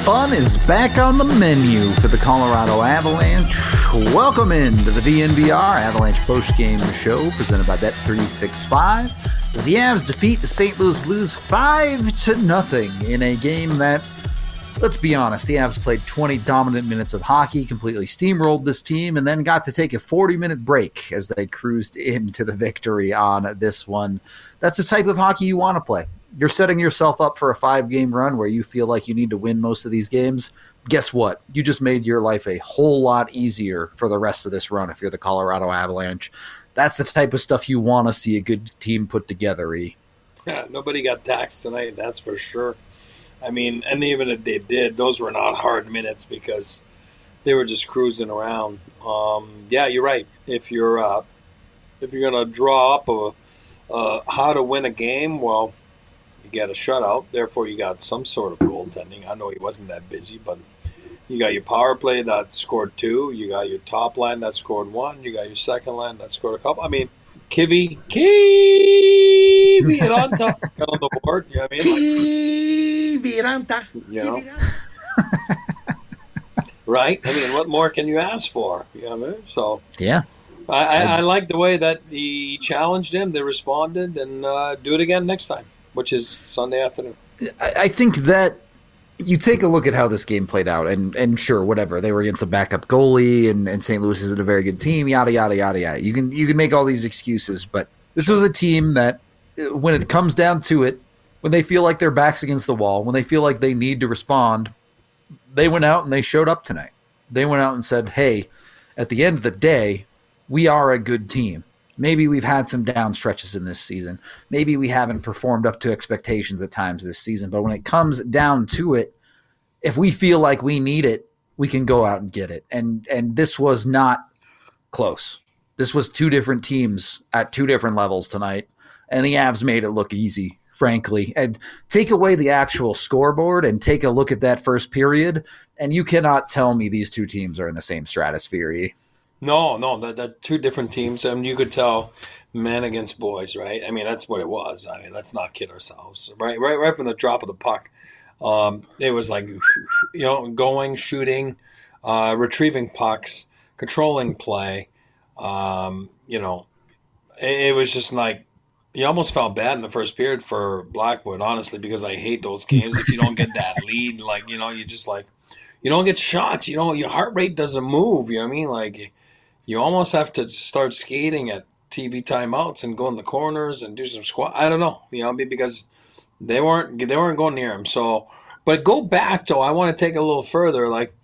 Fun is back on the menu for the Colorado Avalanche. Welcome into the DNVR Avalanche postgame show presented by Bet365 as the Avs defeat the St. Louis Blues 5-0 in a game that, let's be honest, the Avs played 20 dominant minutes of hockey, completely steamrolled this team, and then got to take a 40-minute break as they cruised into the victory on this one. That's the type of hockey you want to play. You're setting yourself up for a 5-game run where you feel like you need to win most of these games. Guess what? You just made your life a whole lot easier for the rest of this run if you're the Colorado Avalanche. That's the type of stuff you want to see a good team put together, E. Yeah, nobody got taxed tonight, that's for sure. I mean, and even if they did, those were not hard minutes because they were just cruising around. Yeah, you're right. If you're going to draw up how to win a game, well, you get a shutout. Therefore, you got some sort of goaltending. I know he wasn't that busy, but you got your power play that scored 2. You got your top line that scored 1. You got your second line that scored a couple. I mean, Kivi and on top got on the board. You know what I mean? Like, you know? Right? I mean, what more can you ask for? You know what I mean? So yeah, I like the way that he challenged him. They responded, and do it again next time, which is Sunday afternoon. I think that you take a look at how this game played out, and sure, whatever. They were against a backup goalie, and St. Louis isn't a very good team, yada, yada, yada, yada. You can make all these excuses, but this was a team that, when it comes down to it, when they feel like their back's against the wall, when they feel like they need to respond, they went out and they showed up tonight. They went out and said, hey, at the end of the day, we are a good team. Maybe we've had some down stretches in this season. Maybe we haven't performed up to expectations at times this season. But when it comes down to it, if we feel like we need it, we can go out and get it. And this was not close. This was 2 different teams at 2 different levels tonight. And the Avs made it look easy, frankly. And take away the actual scoreboard and take a look at that first period, and you cannot tell me these 2 teams are in the same stratosphere. No, that 2 different teams. I mean, you could tell men against boys, right? I mean, that's what it was. I mean, let's not kid ourselves. Right from the drop of the puck, it was like, going, shooting, retrieving pucks, controlling play. It was just like, you almost felt bad in the first period for Blackwood, honestly, because I hate those games. If you don't get that lead, you just like, you don't get shots. Your heart rate doesn't move. You know what I mean? Like, you almost have to start skating at TV timeouts and go in the corners and do some squat. I don't know, because they weren't going near him. So, but go back though. I want to take it a little further. Like,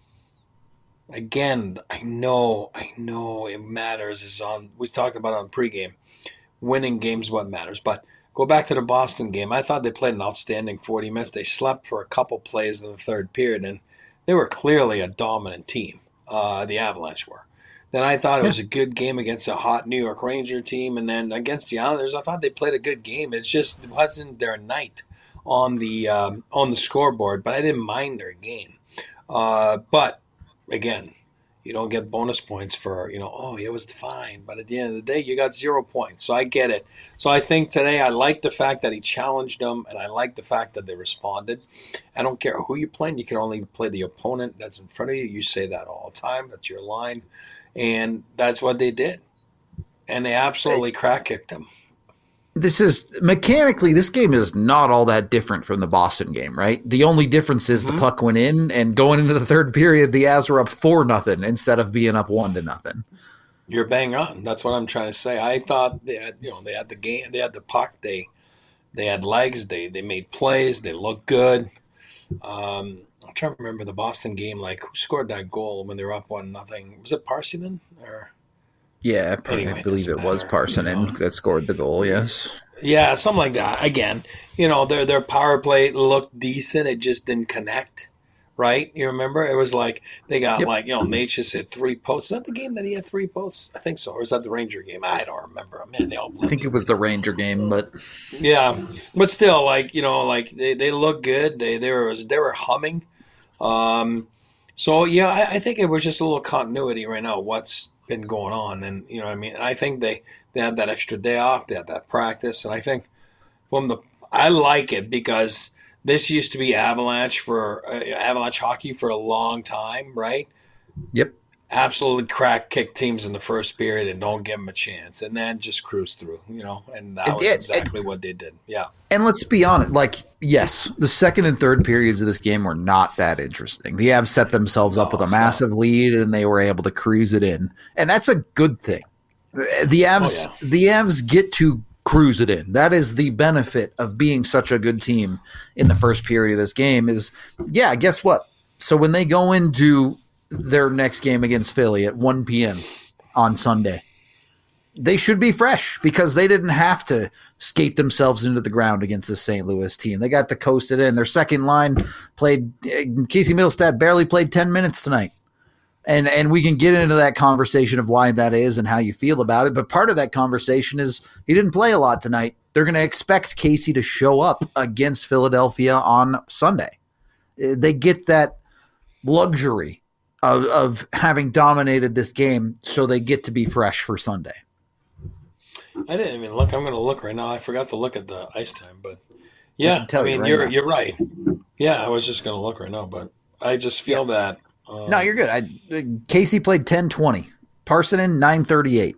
again, I know it matters. We talked about it on pregame. Winning games what matters. But go back to the Boston game. I thought they played an outstanding 40 minutes. They slept for a couple plays in the third period, and they were clearly a dominant team. The Avalanche were. Then I thought it was a good game against a hot New York Ranger team, and then against the Islanders, I thought they played a good game. It just wasn't their night on the scoreboard, but I didn't mind their game. But again, you don't get bonus points for, it was fine. But at the end of the day, you got 0 points. So I get it. So I think today I like the fact that he challenged them, and I like the fact that they responded. I don't care who you're playing. You can only play the opponent that's in front of you. You say that all the time. That's your line. And that's what they did. And they absolutely crack-kicked him. Mechanically, this game is not all that different from the Boston game, right? The only difference is the puck went in, and going into the third period, the Avs were up 4-0 instead of being up 1-0. You're bang on. That's what I'm trying to say. I thought they had the game, they had the puck, they had legs, they made plays, they looked good. I'm trying to remember the Boston game. Like, who scored that goal when they were up 1-0? Was it Parssinen or? Yeah, I believe it was Parssinen that scored the goal, yes. Yeah, something like that. Again, their power play looked decent. It just didn't connect, right? You remember? It was like they got Nate just hit 3 posts. Is that the game that he had 3 posts? I think so. Or is that the Ranger game? I don't remember. Man, I think it was the Ranger game, but yeah, but still, they look good. They were humming. So yeah, I think it was just a little continuity right now. What's been going on, and I think they had that extra day off, they had that practice, and I think I like it because this used to be Avalanche for Avalanche hockey for a long time, right? Yep. Absolutely kick teams in the first period and don't give them a chance, and then just cruise through, and that was exactly what they did. Yeah. And let's be honest, yes, the second and third periods of this game were not that interesting. The Avs set themselves up with a massive lead, and they were able to cruise it in, and that's a good thing. The Avs get to cruise it in. That is the benefit of being such a good team in the first period of this game. Guess what? So when they go into their next game against Philly at 1 p.m. on Sunday, they should be fresh because they didn't have to skate themselves into the ground against the St. Louis team. They got to coast it in. Their second line played – Casey Middlestat barely played 10 minutes tonight. And we can get into that conversation of why that is and how you feel about it. But part of that conversation is he didn't play a lot tonight. They're going to expect Casey to show up against Philadelphia on Sunday. They get that luxury of having dominated this game, so they get to be fresh for Sunday. I didn't even look. I'm going to look right now. I forgot to look at the ice time, but yeah, you're right. Yeah, I was just going to look right now, but I just feel that. No, you're good. Casey played 10-20. Parssinen 9:38.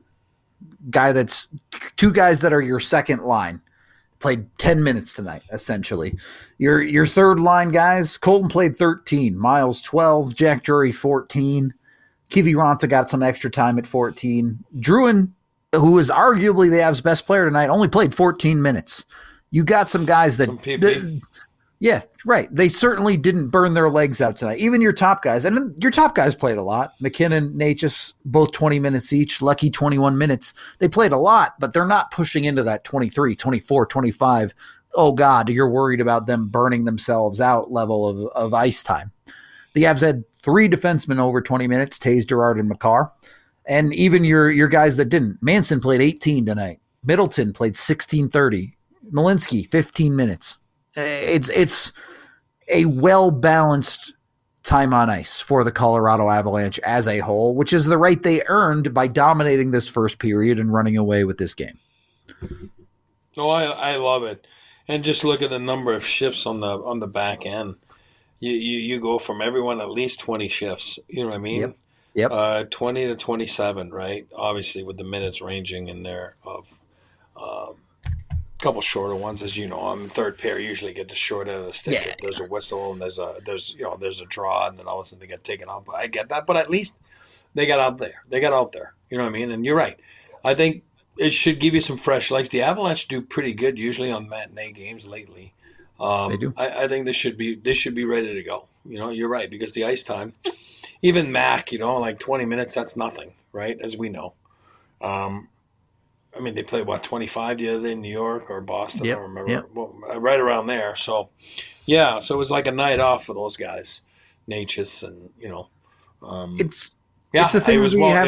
Two guys that are your second line. Played 10 minutes tonight, essentially. Your third line guys, Colton played 13, Miles 12, Jack Drury 14, Kiviranta got some extra time at 14. Drouin, who is arguably the Avs' best player tonight, only played 14 minutes. You got some guys that yeah, right. They certainly didn't burn their legs out tonight. Even your top guys. And your top guys played a lot. McKinnon, Natchez, both 20 minutes each. Lucky 21 minutes. They played a lot, but they're not pushing into that 23, 24, 25. Oh, God, you're worried about them burning themselves out level of ice time. The Avs had 3 defensemen over 20 minutes, Taze, Girard, and Makar. And even your guys that didn't. Manson played 18 tonight. Middleton played 16:30. Malinsky, 15 minutes. It's a well-balanced time on ice for the Colorado Avalanche as a whole, which is the right they earned by dominating this first period and running away with this game. Oh, I love it. And just look at the number of shifts on the back end. You go from everyone at least 20 shifts. You know what I mean? Yep. 20 to 27, right? Obviously, with the minutes ranging in there of couple shorter ones, as you know. On the third pair, usually get the short end of the stick. Yeah. There's a whistle and there's a draw, and then all of a sudden they get taken out. I get that, but at least they got out there. You know what I mean? And you're right. I think it should give you some fresh legs. The Avalanche do pretty good usually on matinee games lately. They do. I think they should be ready to go. You're right, because the ice time, even Mac, like 20 minutes, that's nothing, right? As we know. They played, 25 the other day in New York or Boston, I don't remember. Yep. Well, right around there. So, yeah, so it was like a night off for those guys, Natchez and, It's the thing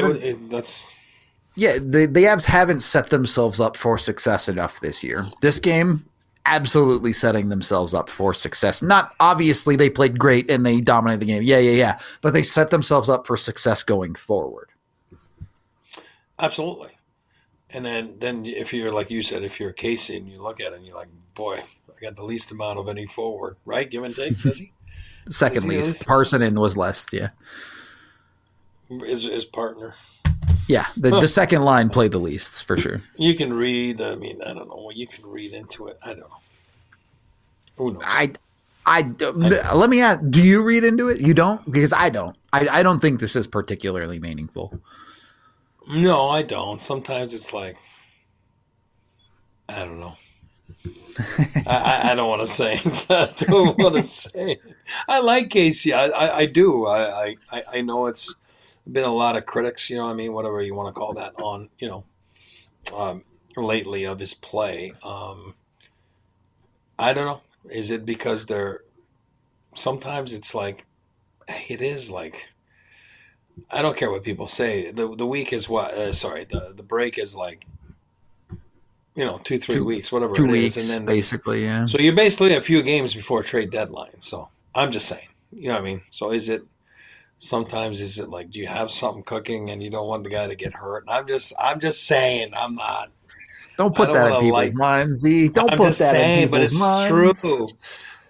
the Avs haven't set themselves up for success enough this year. This game, absolutely setting themselves up for success. Not obviously they played great and they dominated the game. Yeah. But they set themselves up for success going forward. Absolutely. And then if you're, like you said, if you're Casey and you look at it and you're like, boy, I got the least amount of any forward, right? Give and take, does he? Second least. Parssinen was less, yeah. His partner. Yeah, the second line played the least, for sure. You can read, I don't know what you can read into it. I don't know. Who knows? Let me ask, do you read into it? You don't? Because I don't. I don't think this is particularly meaningful. No, I don't. Sometimes it's like, I don't know. I don't want to say it. I don't want to say it. I like Casey. I do. I know it's been a lot of critics, whatever you want to call that, on, lately of his play. I don't know. Is it because sometimes it's like, it is like, I don't care what people say. The week is what? The break is like, 2-3 weeks, whatever 2 it weeks, is, and then basically, yeah. So you're basically a few games before trade deadline. So I'm just saying, you know what I mean. So sometimes is it like, do you have something cooking and you don't want the guy to get hurt? And I'm just saying, I'm not. Don't put that in people's minds, Z. Don't put that in people's minds. But it's true.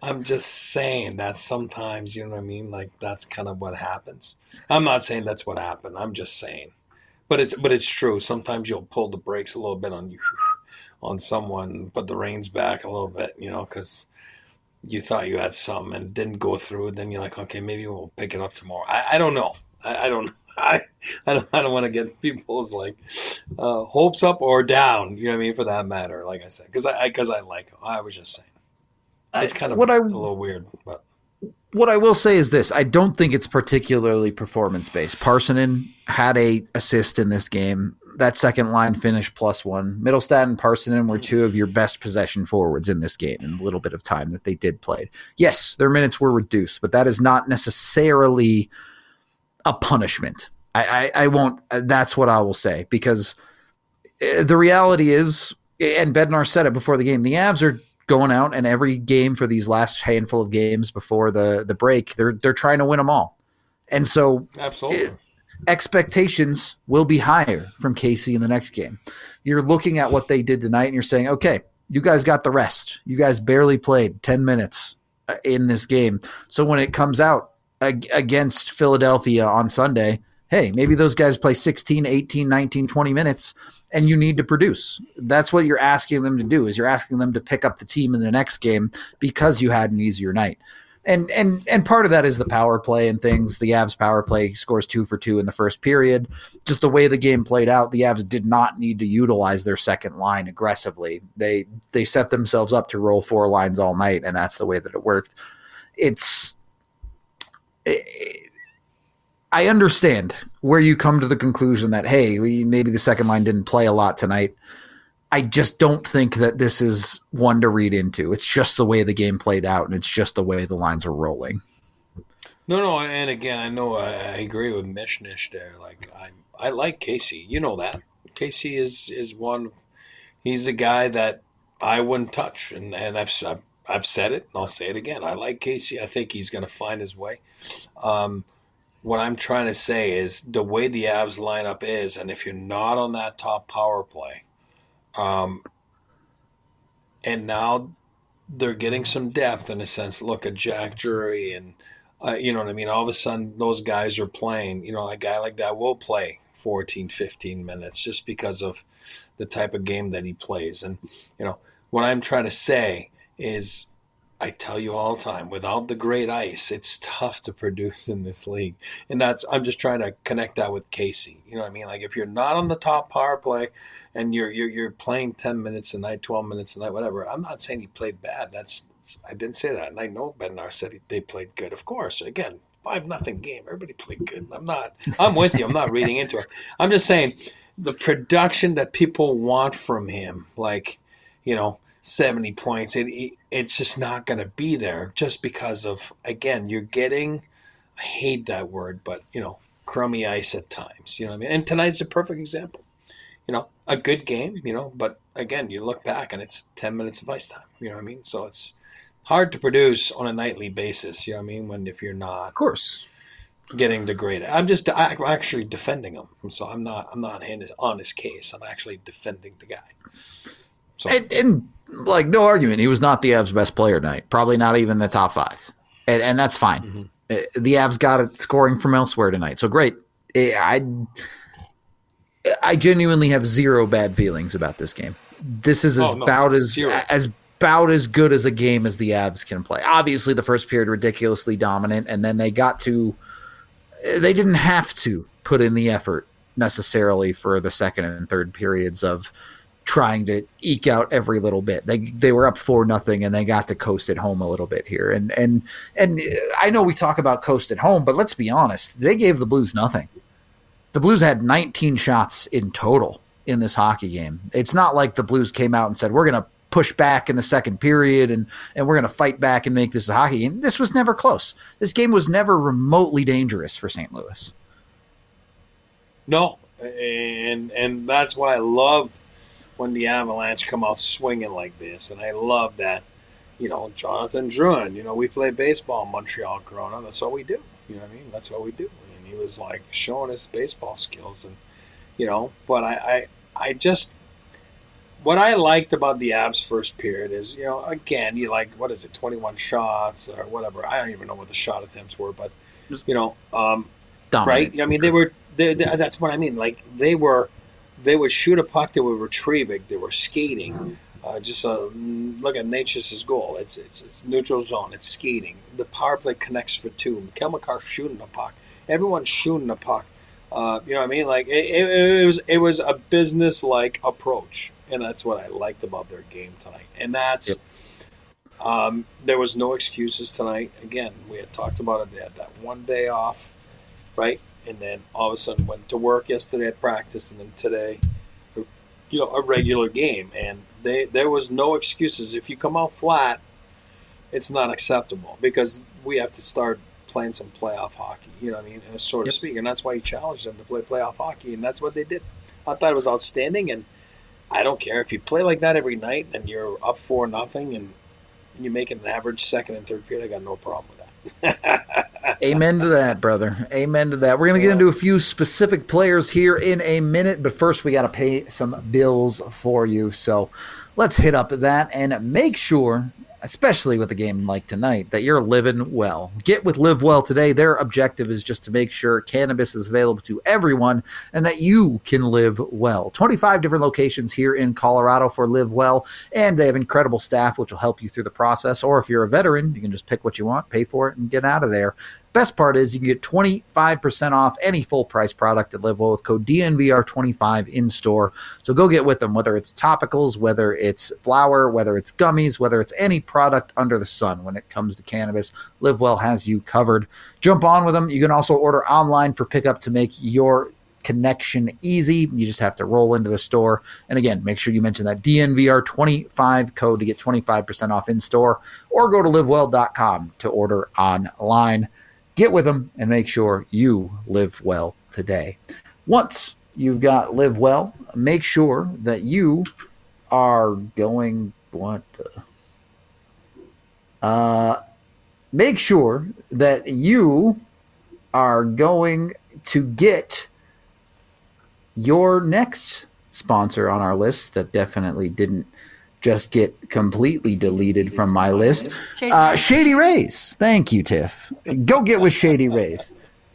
I'm just saying that sometimes, you know what I mean? Like that's kind of what happens. I'm not saying that's what happened. I'm just saying. But it's true. Sometimes you'll pull the brakes a little bit on you on someone, put the reins back a little bit, because you thought you had some and it didn't go through. Then you're like, okay, maybe we'll pick it up tomorrow. I don't know. I don't. I don't want to get people's like hopes up or down. You know what I mean? For that matter, like I said, because I like him. I was just saying I, it's kind of what I a little weird, but what I will say is this: I don't think it's particularly performance based. Parsonen had a assist in this game. That second line finished +1. Middlestat and Parsonen were two of your best possession forwards in this game in the little bit of time that they did play. Yes, their minutes were reduced, but that is not necessarily a punishment. I won't. That's what I will say, because the reality is, and Bednar said it before the game, the Avs are going out, and every game for these last handful of games before the break, they're trying to win them all. And so absolutely. Expectations will be higher from Casey in the next game. You're looking at what they did tonight and you're saying, okay, you guys got the rest. You guys barely played 10 minutes in this game. So when it comes out against Philadelphia on Sunday, hey, maybe those guys play 16, 18, 19, 20 minutes and you need to produce. That's what you're asking them to do, is you're asking them to pick up the team in the next game because you had an easier night. And part of that is the power play and things. The Avs power play scores 2 for 2 in the first period. Just the way the game played out, the Avs did not need to utilize their second line aggressively. They set themselves up to roll 4 lines all night, and that's the way that it worked. I understand where you come to the conclusion that, hey, maybe the second line didn't play a lot tonight. I just don't think that this is one to read into. It's just the way the game played out, and it's just the way the lines are rolling. No, and again, I know I agree with Mishnish there. Like I like Casey. You know that Casey is one. He's a guy that I wouldn't touch, and I've said it, and I'll say it again. I like Casey. I think he's going to find his way. What I'm trying to say is the way the Avs lineup is, and if you're not on that top power play. And now they're getting some depth in a sense. Look at Jack Drury and, you know what I mean? All of a sudden, those guys are playing. A guy like that will play 14, 15 minutes just because of the type of game that he plays. And, what I'm trying to say is, I tell you all the time, without the great ice, it's tough to produce in this league. And I'm just trying to connect that with Casey. You know what I mean? Like if you're not on the top power play and you're playing 10 minutes a night, 12 minutes a night, whatever. I'm not saying he played bad. I didn't say that. And I know Bednar said they played good. Of course, again, 5-0 game. Everybody played good. I'm with you. I'm not reading into it. I'm just saying the production that people want from him, like, 70 points, it's just not going to be there just because of, again, you're getting, I hate that word, but, crummy ice at times. You know what I mean? And tonight's a perfect example. A good game, but again, you look back and it's 10 minutes of ice time. You know what I mean? So it's hard to produce on a nightly basis. You know what I mean? If you're not, of course, getting the grade. I'm actually defending him. So I'm not on his case. I'm actually defending the guy. So. And like, no argument, he was not the Avs' best player tonight. Probably not even the top 5. And that's fine. Mm-hmm. The Avs got it scoring from elsewhere tonight. So great. I genuinely have zero bad feelings about this game. This is about as good as a game as the Avs can play. Obviously, the first period ridiculously dominant, and then they didn't have to put in the effort necessarily for the second and third periods of trying to eke out every little bit. They were up 4-0 and they got to coast at home a little bit here. And I know we talk about coast at home, but let's be honest, they gave the Blues nothing. The Blues had 19 shots in total in this hockey game. It's not like the Blues came out and said, we're going to push back in the second period and we're going to fight back and make this a hockey game. This was never close. This game was never remotely dangerous for St. Louis. No, and that's why I love when the Avalanche come out swinging like this. And I love that, Jonathan Drouin, we play baseball in Montreal, Corona. That's what we do. You know what I mean? That's what we do. And he was like showing his baseball skills. And, but I just, what I liked about the Avs first period is, again, you like, what is it, 21 shots or whatever. I don't even know what the shot attempts were, but, right? I mean, that's what I mean. Like, they would shoot a puck, they would retrieve it, they were skating. Look at Nature's goal. It's neutral zone. It's skating. The power play connects for two. Kel McCarr shooting the puck. Everyone's shooting the puck. You know what I mean? Like it was a business like approach, and that's what I liked about their game tonight. And that's there was no excuses tonight. Again, we had talked about it. They had that one day off, right? And then all of a sudden went to work yesterday at practice, and then today, a regular game. And there was no excuses. If you come out flat, it's not acceptable because we have to start playing some playoff hockey, you know what I mean, so to speak. And that's why you challenged them to play playoff hockey, and that's what they did. I thought it was outstanding, and I don't care if you play like that every night and you're up 4-0 and you make an average second and third period. I got no problem with that. Amen to that, brother. Amen to that. We're going to get into a few specific players here in a minute, but first we got to pay some bills for you. So let's hit up that and make sure, especially with a game like tonight, that you're living well. Get with Live Well today. Their objective is just to make sure cannabis is available to everyone and that you can live well. 25 different locations here in Colorado for Live Well, and they have incredible staff which will help you through the process. Or if you're a veteran, you can just pick what you want, pay for it, and get out of there. Best part is you can get 25% off any full-price product at Live Well with code DNVR25 in-store. So go get with them, whether it's topicals, whether it's flower, whether it's gummies, whether it's any product under the sun when it comes to cannabis. Live Well has you covered. Jump on with them. You can also order online for pickup to make your connection easy. You just have to roll into the store. And again, make sure you mention that DNVR25 code to get 25% off in-store, or go to livewell.com to order online. Get with them and make sure you live well today. Once you've got Live Well, make sure that you are going make sure that you are going to get your next sponsor on our list that definitely didn't just get completely deleted from my list. Shady Rays. Thank you, Tiff. Go get with Shady Rays.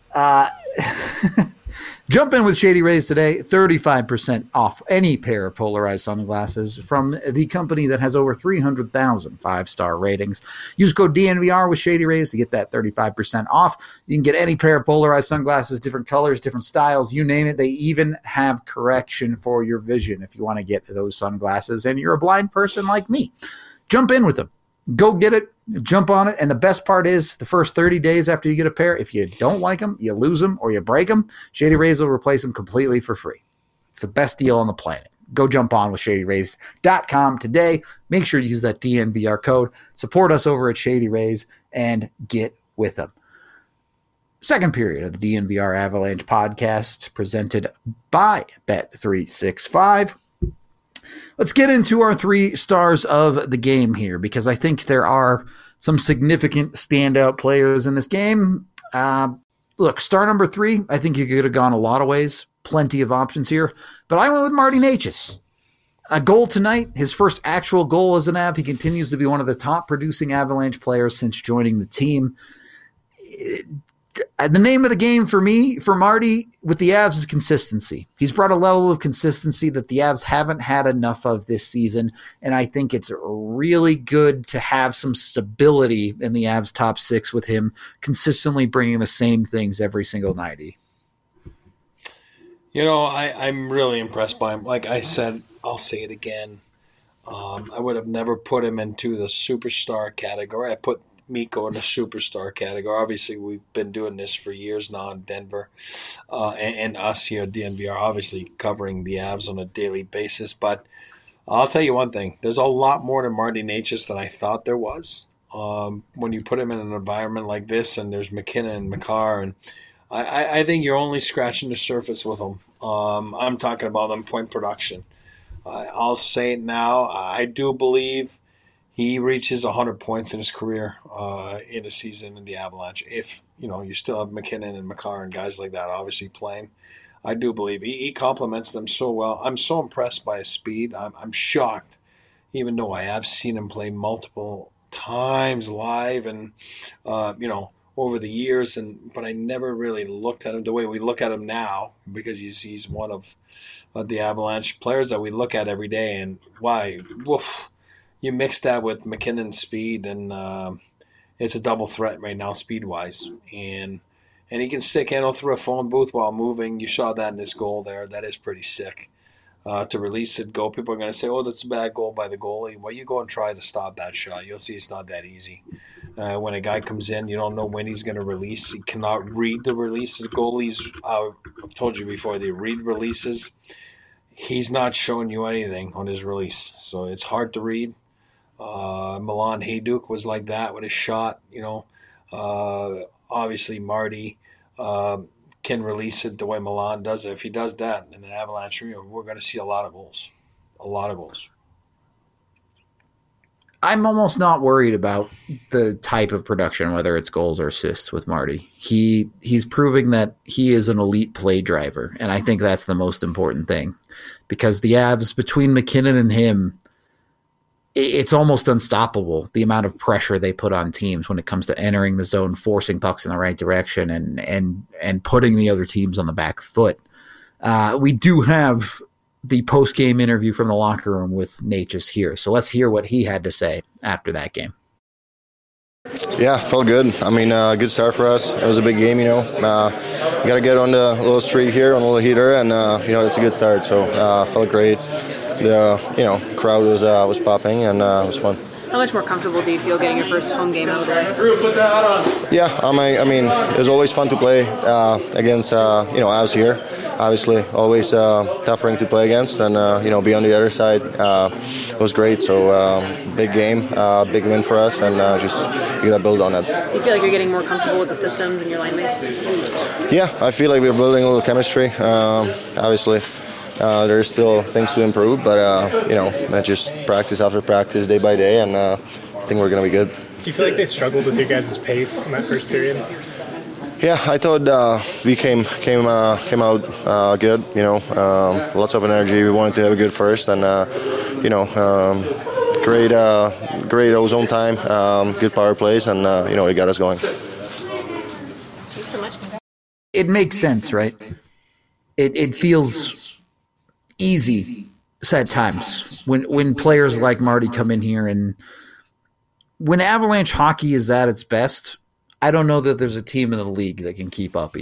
Jump in with Shady Rays today. 35% off any pair of polarized sunglasses from the company that has over 300,000 five-star ratings. Use code DNVR with Shady Rays to get that 35% off. You can get any pair of polarized sunglasses, different colors, different styles, you name it. They even have correction for your vision if you want to get those sunglasses and you're a blind person like me. Jump in with them. Go get it. Jump on it. And the best part is the first 30 days after you get a pair, if you don't like them, you lose them, or you break them, Shady Rays will replace them completely for free. It's the best deal on the planet. Go jump on with ShadyRays.com today. Make sure you use that DNVR code. Support us over at Shady Rays and get with them. Second period of the DNVR Avalanche podcast presented by Bet365. Let's get into our 3 stars of the game here, because I think there are some significant standout players in this game. Look, star number 3, I think you could have gone a lot of ways. Plenty of options here. But I went with Marty Necas. A goal tonight, his first actual goal as an Av. He continues to be one of the top producing Avalanche players since joining the team. The name of the game for me, for Marty, with the Avs is consistency. He's brought a level of consistency that the Avs haven't had enough of this season, and I think it's really good to have some stability in the Avs top 6 with him consistently bringing the same things every single night. I'm really impressed by him. Like I said, I'll say it again. I would have never put him into the superstar category. I put Mikko in the superstar category. Obviously, we've been doing this for years now in Denver, and us here at DNVR, obviously covering the Avs on a daily basis. But I'll tell you one thing: there's a lot more to Marty Necas than I thought there was. When you put him in an environment like this, and there's McKinnon and Makar, and I think you're only scratching the surface with him. I'm talking about on point production. I'll say it now. I do believe he reaches 100 points in his career in a season in the Avalanche. If, you still have McKinnon and Makar and guys like that obviously playing. I do believe he complements them so well. I'm so impressed by his speed. I'm shocked, even though I have seen him play multiple times live and over the years, and but I never really looked at him the way we look at him now because he's one of the Avalanche players that we look at every day. And why, woof, you mix that with McKinnon's speed, and it's a double threat right now, speed wise, and he can stick handle through a phone booth while moving. You saw that in his goal there. That is pretty sick. To release it, go. People are going to say, "Oh, that's a bad goal by the goalie." Well, you go and try to stop that shot. You'll see it's not that easy. When a guy comes in, you don't know when he's going to release. He cannot read the releases. Goalies, I've told you before, they read releases. He's not showing you anything on his release, so it's hard to read. Milan Hajduk was like that with his shot. Obviously Marty can release it the way Milan does it. If he does that in an Avalanche, we're going to see a lot of goals. A lot of goals. I'm almost not worried about the type of production, whether it's goals or assists with Marty. He's proving that he is an elite play driver, and I think that's the most important thing. Because the Avs, between McKinnon and him, it's almost unstoppable, the amount of pressure they put on teams when it comes to entering the zone, forcing pucks in the right direction, and putting the other teams on the back foot. We do have the post-game interview from the locker room with Natchez here. So let's hear what he had to say after that game. Yeah, felt good. I mean, good start for us. It was a big game, got to get on the little streak here, on a little heater, and, it's a good start. So felt great. The, crowd was popping, and it was fun. How much more comfortable do you feel getting your first home game out there? Yeah, I mean, it's always fun to play against, Avs here. Obviously, always tough ring to play against, and, be on the other side was great. So, big game, big win for us, and just you got to build on that. Do you feel like you're getting more comfortable with the systems and your line mates? Yeah, I feel like we're building a little chemistry. Obviously, there's still things to improve, but, just practice after practice, day by day, and I think we're going to be good. Do you feel like they struggled with your guys' pace in that first period? Yeah, I thought we came out good. Lots of energy. We wanted to have a good first, and great ozone time, good power plays, and it got us going. Thanks so much. It makes sense, right? It feels easy at times when players like Marty come in here, and when Avalanche hockey is at its best, I don't know that there's a team in the league that can keep up.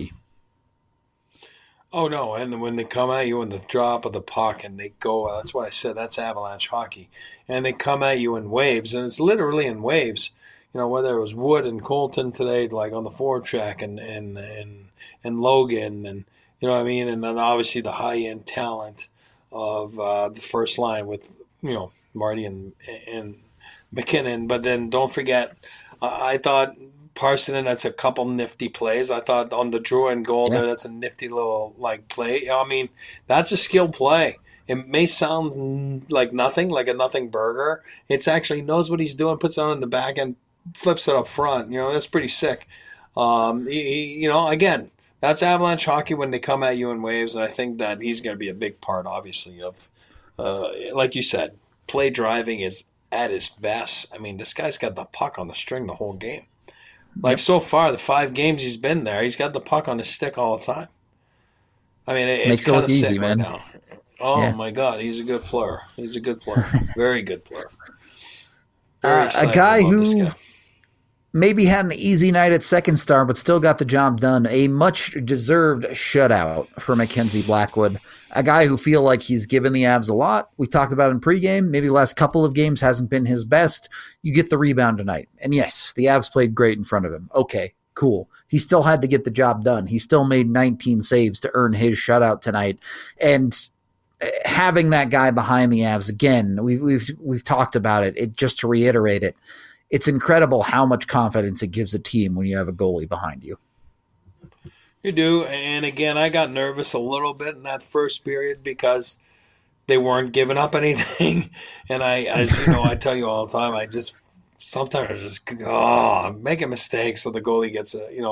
Oh, no, and when they come at you in the drop of the puck and they go, that's what I said, that's Avalanche hockey. And they come at you in waves, and it's literally in waves. Whether it was Wood and Colton today, like on the forecheck, and Logan, and you know what I mean? And then obviously the high-end talent of the first line with, Marty and McKinnon. But then don't forget, I thought Parssinen, that's a couple nifty plays. I thought on the Drouin goal there, that's a nifty little play. I mean, that's a skilled play. It may sound like nothing, like a nothing burger. It's actually knows what he's doing, puts it on in the back and flips it up front. That's pretty sick. Again, that's Avalanche hockey when they come at you in waves, and I think that he's going to be a big part, obviously, of, like you said, play driving is at his best. I mean, this guy's got the puck on the string the whole game. So far, the 5 games he's been there, he's got the puck on his stick all the time. I mean, it's kind of easy, man. Right now. Oh, my God, he's a good player. He's a good player. Very good player. A guy who maybe had an easy night at Second Star, but still got the job done. A much-deserved shutout for Mackenzie Blackwood. A guy who feel like he's given the Avs a lot. We talked about in pregame. Maybe the last couple of games hasn't been his best. You get the rebound tonight. And yes, the Avs played great in front of him. Okay, cool. He still had to get the job done. He still made 19 saves to earn his shutout tonight. And having that guy behind the Avs, again, we've talked about it. Just to reiterate it, it's incredible how much confidence it gives a team when you have a goalie behind you. You do, and again, I got nervous a little bit in that first period because they weren't giving up anything. And I tell you all the time, sometimes I just making mistakes, so the goalie gets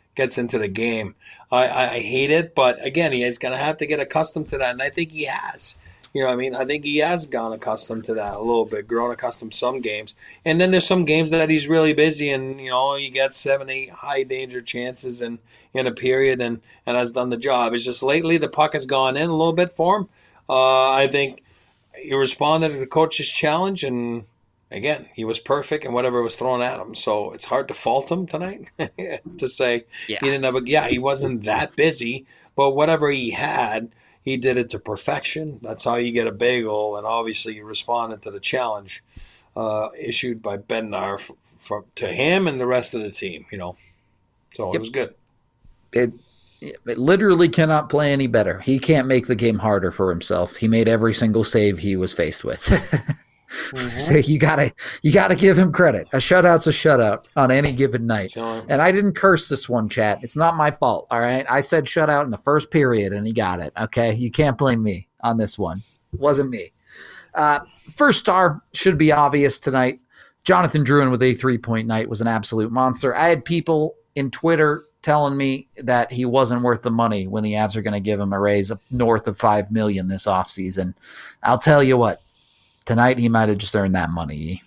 gets into the game. I hate it, but again, he's going to have to get accustomed to that, and I think he has. You know what I mean? I think he has gone accustomed to that a little bit, grown accustomed to some games. And then there's some games that he's really busy and, he gets 7, 8 high-danger chances in a period and has done the job. It's just lately the puck has gone in a little bit for him. I think he responded to the coach's challenge, and, again, he was perfect in whatever was thrown at him. So it's hard to fault him tonight to say he didn't have he wasn't that busy, but whatever he had, he did it to perfection. That's how you get a bagel, and obviously you responded to the challenge issued by Bednar to him and the rest of the team, So it was good. It literally cannot play any better. He can't make the game harder for himself. He made every single save he was faced with. So you gotta give him credit. A shutout's a shutout on any given night. And I didn't curse this one, chat. It's not my fault. All right. I said shutout in the first period and he got it. Okay. You can't blame me on this one. It wasn't me. First star should be obvious tonight. Jonathan Drouin with a 3-point night was an absolute monster. I had people in Twitter telling me that he wasn't worth the money when the Avs are going to give him a raise of north of $5 million this offseason. I'll tell you what. Tonight, he might have just earned that money.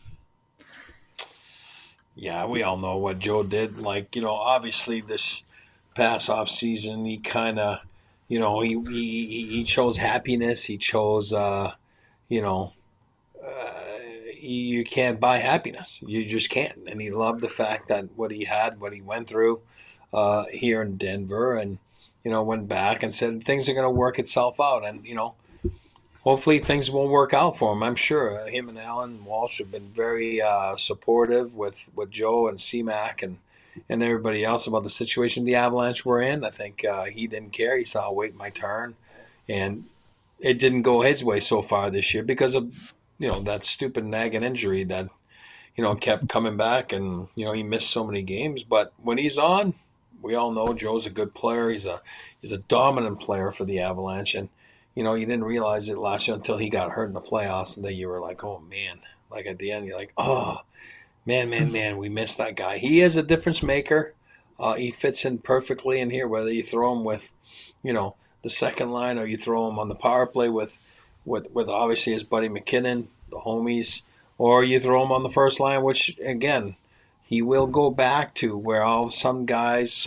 Yeah, we all know what Joe did. Obviously this past off season, he kind of, he chose happiness. He chose, you can't buy happiness. You just can't. And he loved the fact that what he went through here in Denver and, went back and said things are going to work itself out. And, hopefully things will work out for him. I'm sure him and Alan Walsh have been very supportive with Joe and C-Mac and everybody else about the situation the Avalanche were in. I think he didn't care. He saw, wait my turn. And it didn't go his way so far this year because of, that stupid nagging injury that, kept coming back. And, he missed so many games. But when he's on, we all know Joe's a good player. He's a dominant player for the Avalanche. And, you didn't realize it last year until he got hurt in the playoffs, and then you were like, oh, man. Like, at the end, you're like, oh, man, we missed that guy. He is a difference maker. He fits in perfectly in here, whether you throw him with, the second line or you throw him on the power play with obviously his buddy McKinnon, the homies, or you throw him on the first line, which, again, he will go back to where some days,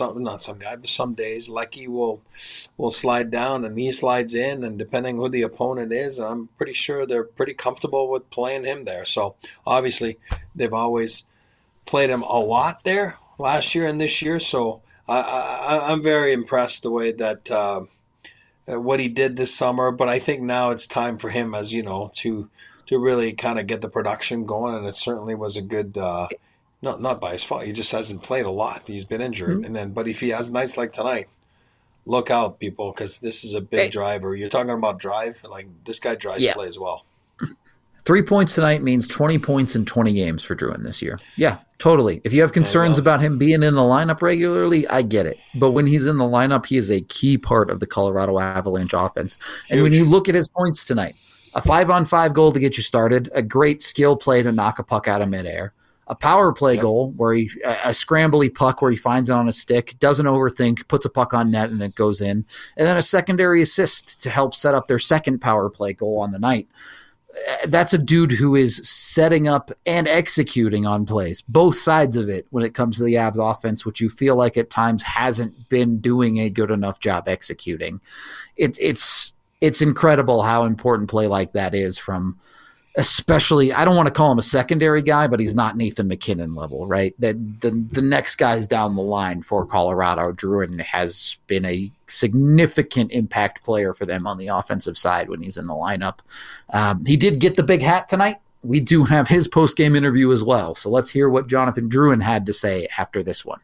Lecky will slide down and he slides in, and depending who the opponent is, I'm pretty sure they're pretty comfortable with playing him there. So obviously they've always played him a lot there last year and this year. So I'm very impressed the way that what he did this summer. But I think now it's time for him, as to really kind of get the production going, and it certainly was a good. Not by his fault. He just hasn't played a lot. He's been injured. Mm-hmm. But if he has nights like tonight, look out, people, because this is a big driver. You're talking about drive. Like, this guy drives play as well. 3 points tonight means 20 points in 20 games for Drouin this year. Yeah, totally. If you have concerns about him being in the lineup regularly, I get it. But when he's in the lineup, he is a key part of the Colorado Avalanche offense. And when you look at his points tonight, a 5-on-5 goal to get you started, a great skill play to knock a puck out of midair, a power play goal where a scrambly puck where he finds it on a stick, doesn't overthink, puts a puck on net, and it goes in. And then a secondary assist to help set up their second power play goal on the night. That's a dude who is setting up and executing on plays, both sides of it when it comes to the Avs offense, which you feel like at times hasn't been doing a good enough job executing. It's incredible how important play like that is from – especially, I don't want to call him a secondary guy, but he's not Nathan McKinnon level, right? The next guys down the line for Colorado, Drouin has been a significant impact player for them on the offensive side when he's in the lineup. He did get the big hat tonight. We do have his post-game interview as well. So let's hear what Jonathan Drouin had to say after this one.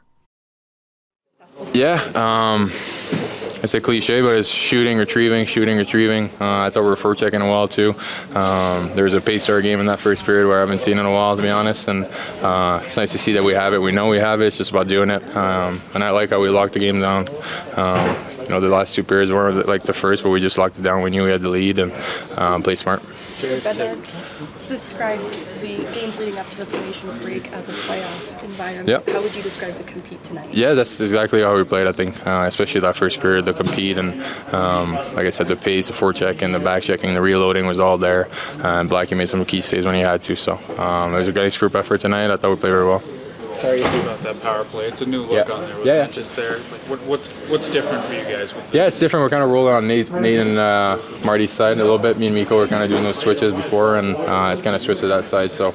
Yeah, it's a cliche, but it's shooting, retrieving. I thought we were forechecking well, too. There was a pace to our game in that first period where I haven't seen in a while, to be honest. And it's nice to see that we have it. We know we have it. It's just about doing it. And I like how we locked the game down. The last two periods weren't like the first, but we just locked it down. We knew we had the lead and played smart. describe the games leading up to the formations break as a playoff environment. Yep. How would you describe the compete tonight? Yeah, that's exactly how we played, I think, especially that first period, the compete. And like I said, the pace, the forecheck, and the back checking, the reloading was all there. And Blackie made some key saves when he had to. So it was a nice group effort tonight. I thought we played very well. Sorry about that power play. It's a new look on there with benches there. Like, what's different for you guys? Yeah, it's different. We're kind of rolling on Nate and Marty's side a little bit. Me and Mikko were kind of doing those switches before, and it's kind of switched to that side. So,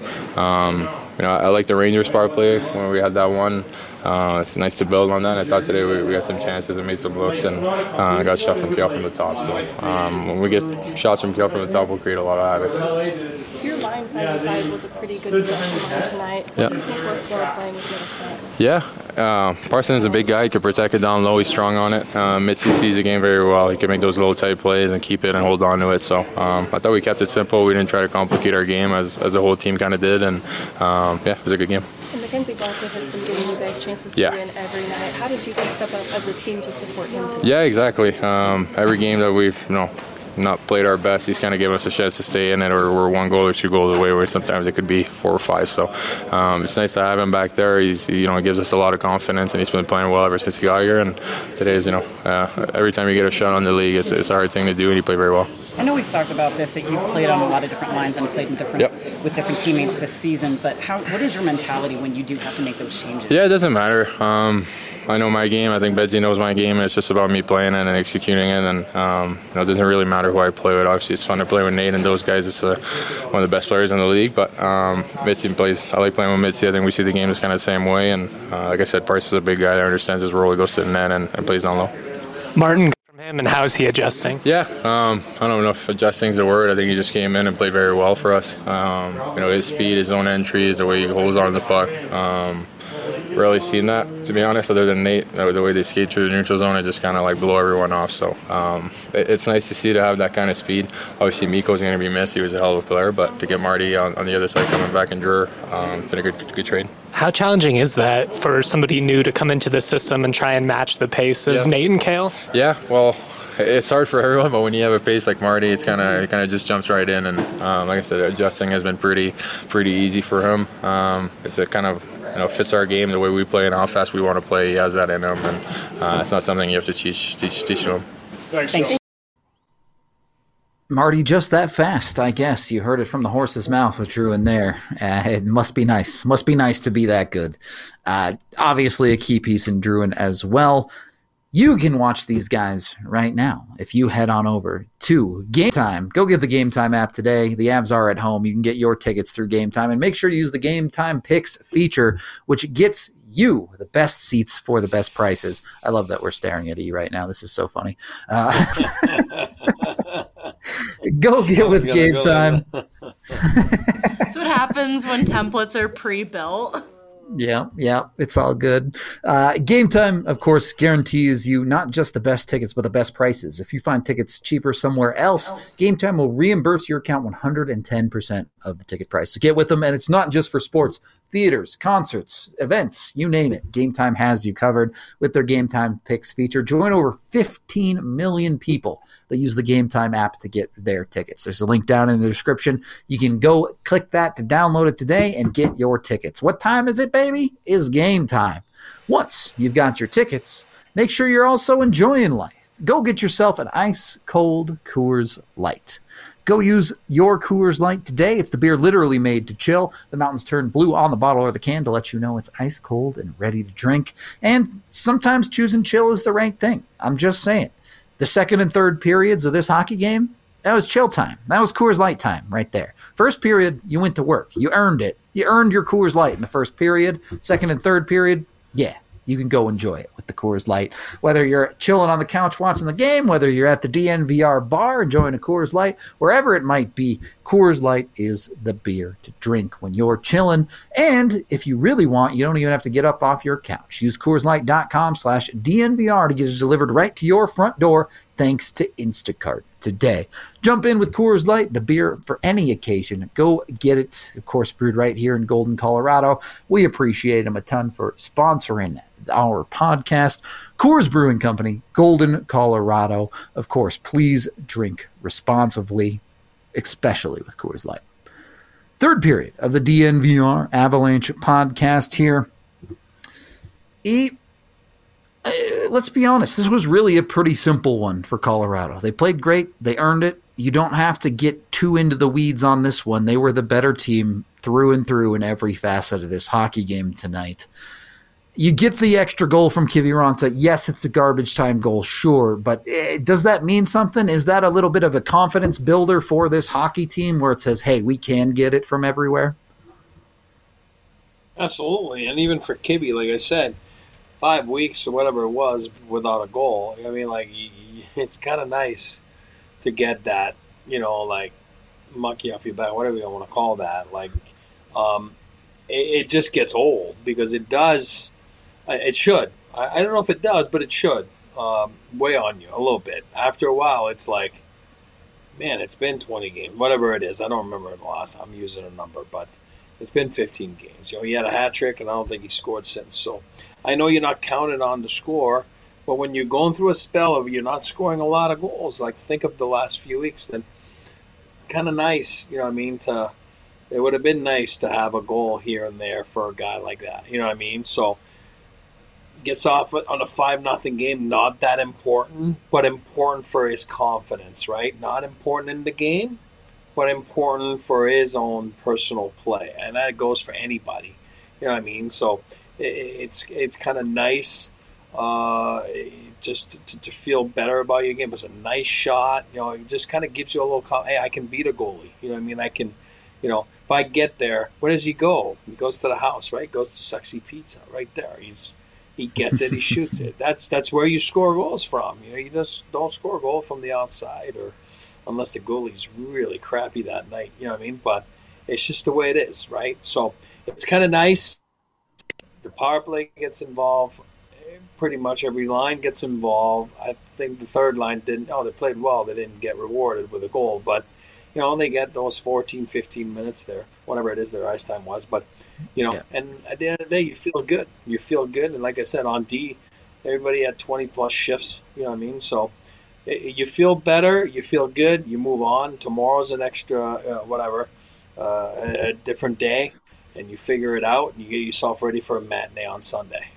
I like the Rangers power play when we had that one. It's nice to build on that. I thought today we got some chances and made some looks and got shot from Kjell from the top. So when we get shots from Kjell from the top, we'll create a lot of havoc. Your line 5-5 was a pretty good possession line tonight. What do you think worked well playing with Minnesota? Yeah, Parsons is a big guy. He can protect it down low. He's strong on it. Mitzi sees the game very well. He can make those little tight plays and keep it and hold on to it. So I thought we kept it simple. We didn't try to complicate our game as the whole team kind of did. And it was a good game. And Mackenzie Blackwood has been giving you guys chances to win every night. How did you guys step up as a team to support him tonight? Yeah, exactly. Every game that we've not played our best, he's kind of given us a chance to stay in it, or we're 1 goal or 2 goals away, where sometimes it could be 4 or 5. So it's nice to have him back there. He gives us a lot of confidence, and he's been playing well ever since he got here. And today is, every time you get a shot on the league, it's a hard thing to do, and he played very well. I know we've talked about this, that you've played on a lot of different lines and played in with different teammates this season, but what is your mentality when you do have to make those changes? Yeah, it doesn't matter. I know my game. I think Betsy knows my game, and it's just about me playing it and executing it. And it doesn't really matter who I play with. Obviously, it's fun to play with Nate and those guys. It's one of the best players in the league. But Mitzi plays. I like playing with Mitzi. I think we see the game is kind of the same way. And like I said, Price is a big guy that understands his role. He goes to the net and plays down low. Martin, from him, and how is he adjusting? Yeah, I don't know if adjusting is the word. I think he just came in and played very well for us. His speed, his own entries, the way he holds on to the puck. Rarely seen that, to be honest, other than Nate. The way they skate through the neutral zone, it just kind of blow everyone off. So it's nice to see to have that kind of speed. Obviously, Mikko's going to be missed. He was a hell of a player, but to get Marty on the other side coming back in Dreher, it's been a good trade. How challenging is that for somebody new to come into the system and try and match the pace of Nate and Cale? Yeah, well, it's hard for everyone, but when you have a pace like Marty, it kind of just jumps right in. And like I said, adjusting has been pretty easy for him. It's a kind of fits our game, the way we play and how fast we want to play. He has that in him, and it's not something you have to teach him. Thanks. Marty, just that fast, I guess. You heard it from the horse's mouth with Drew in there. It must be nice. Must be nice to be that good. Obviously, a key piece in Druin as well. You can watch these guys right now if you head on over to Game Time. Go get the Game Time app today. The Avs are at home. You can get your tickets through Game Time, and make sure to use the Game Time Picks feature, which gets you the best seats for the best prices. I love that we're staring at E right now. This is so funny. Go get with Game Time. That's what happens when templates are pre-built. Yeah, it's all good. Game Time, of course, guarantees you not just the best tickets, but the best prices. If you find tickets cheaper somewhere else, Game Time will reimburse your account 110% of the ticket price. So get with them, and it's not just for sports, theaters, concerts, events, you name it. Game Time has you covered with their Game Time Picks feature. Join over 15 million people that use the Game Time app to get their tickets. There's a link down in the description. You can go click that to download it today and get your tickets. What time is it, baby? Is game time. Once you've got your tickets, make sure you're also enjoying life. Go get yourself an ice cold Coors Light. Go use your Coors Light today. It's the beer literally made to chill. The mountains turn blue on the bottle or the can to let you know it's ice cold and ready to drink. And sometimes choosing chill is the right thing. I'm just saying. The second and third periods of this hockey game, that was chill time. That was Coors Light time right there. First period, you went to work. You earned it. You earned your Coors Light in the first period. Second and third period, yeah, you can go enjoy it with the Coors Light. Whether you're chilling on the couch watching the game, whether you're at the DNVR bar enjoying a Coors Light, wherever it might be, Coors Light is the beer to drink when you're chilling. And if you really want, you don't even have to get up off your couch. Use CoorsLight.com/DNVR to get it delivered right to your front door thanks to Instacart today. Jump in with Coors Light, the beer for any occasion. Go get it. Of course, brewed right here in Golden, Colorado. We appreciate them a ton for sponsoring our podcast. Coors Brewing Company, Golden, Colorado. Of course, please drink responsibly, especially with Coors Light. Third period of the DNVR Avalanche podcast here. Let's be honest, this was really a pretty simple one for Colorado. They played great. They earned it. You don't have to get too into the weeds on this one. They were the better team through and through in every facet of this hockey game tonight. You get the extra goal from Kiviranta. Yes, it's a garbage time goal, sure, but does that mean something? Is that a little bit of a confidence builder for this hockey team where it says, hey, we can get it from everywhere? Absolutely, and even for Kibby, like I said, 5 weeks or whatever it was without a goal. I mean, like, it's kind of nice to get that, like, monkey off your back, whatever you want to call that. Like, it just gets old because it does. It should. I don't know if it does, but it should weigh on you a little bit. After a while, it's like, man, it's been 20 games, whatever it is. I don't remember the last time I'm using a number, but it's been 15 games. He had a hat trick, and I don't think he scored since. So I know you're not counted on to score, but when you're going through a spell of you're not scoring a lot of goals, like think of the last few weeks, then kind of nice, it would have been nice to have a goal here and there for a guy like that. You know what I mean? So gets off on a 5-0 game, not that important, but important for his confidence, right? Not important in the game, but important for his own personal play. And that goes for anybody. You know what I mean? So it's kind of nice just to feel better about your game. It's a nice shot. It just kind of gives you a little, hey, I can beat a goalie. You know what I mean? I can, if I get there, where does he go? He goes to the house, right? Goes to Sexy Pizza right there. He gets it, he shoots it. That's where you score goals from. You just don't score a goal from the outside, or unless the goalie's really crappy that night. You know what I mean? But it's just the way it is, right? So it's kind of nice. The power play gets involved. Pretty much every line gets involved. I think the third line didn't. Oh, they played well. They didn't get rewarded with a goal, but they get those 14, 15 minutes there, whatever it is their ice time was. But and at the end of the day, you feel good. You feel good, and like I said, on D, everybody had 20+ shifts. You know what I mean? So you feel better. You feel good. You move on. Tomorrow's an extra a different day, and you figure it out, and you get yourself ready for a matinee on Sunday.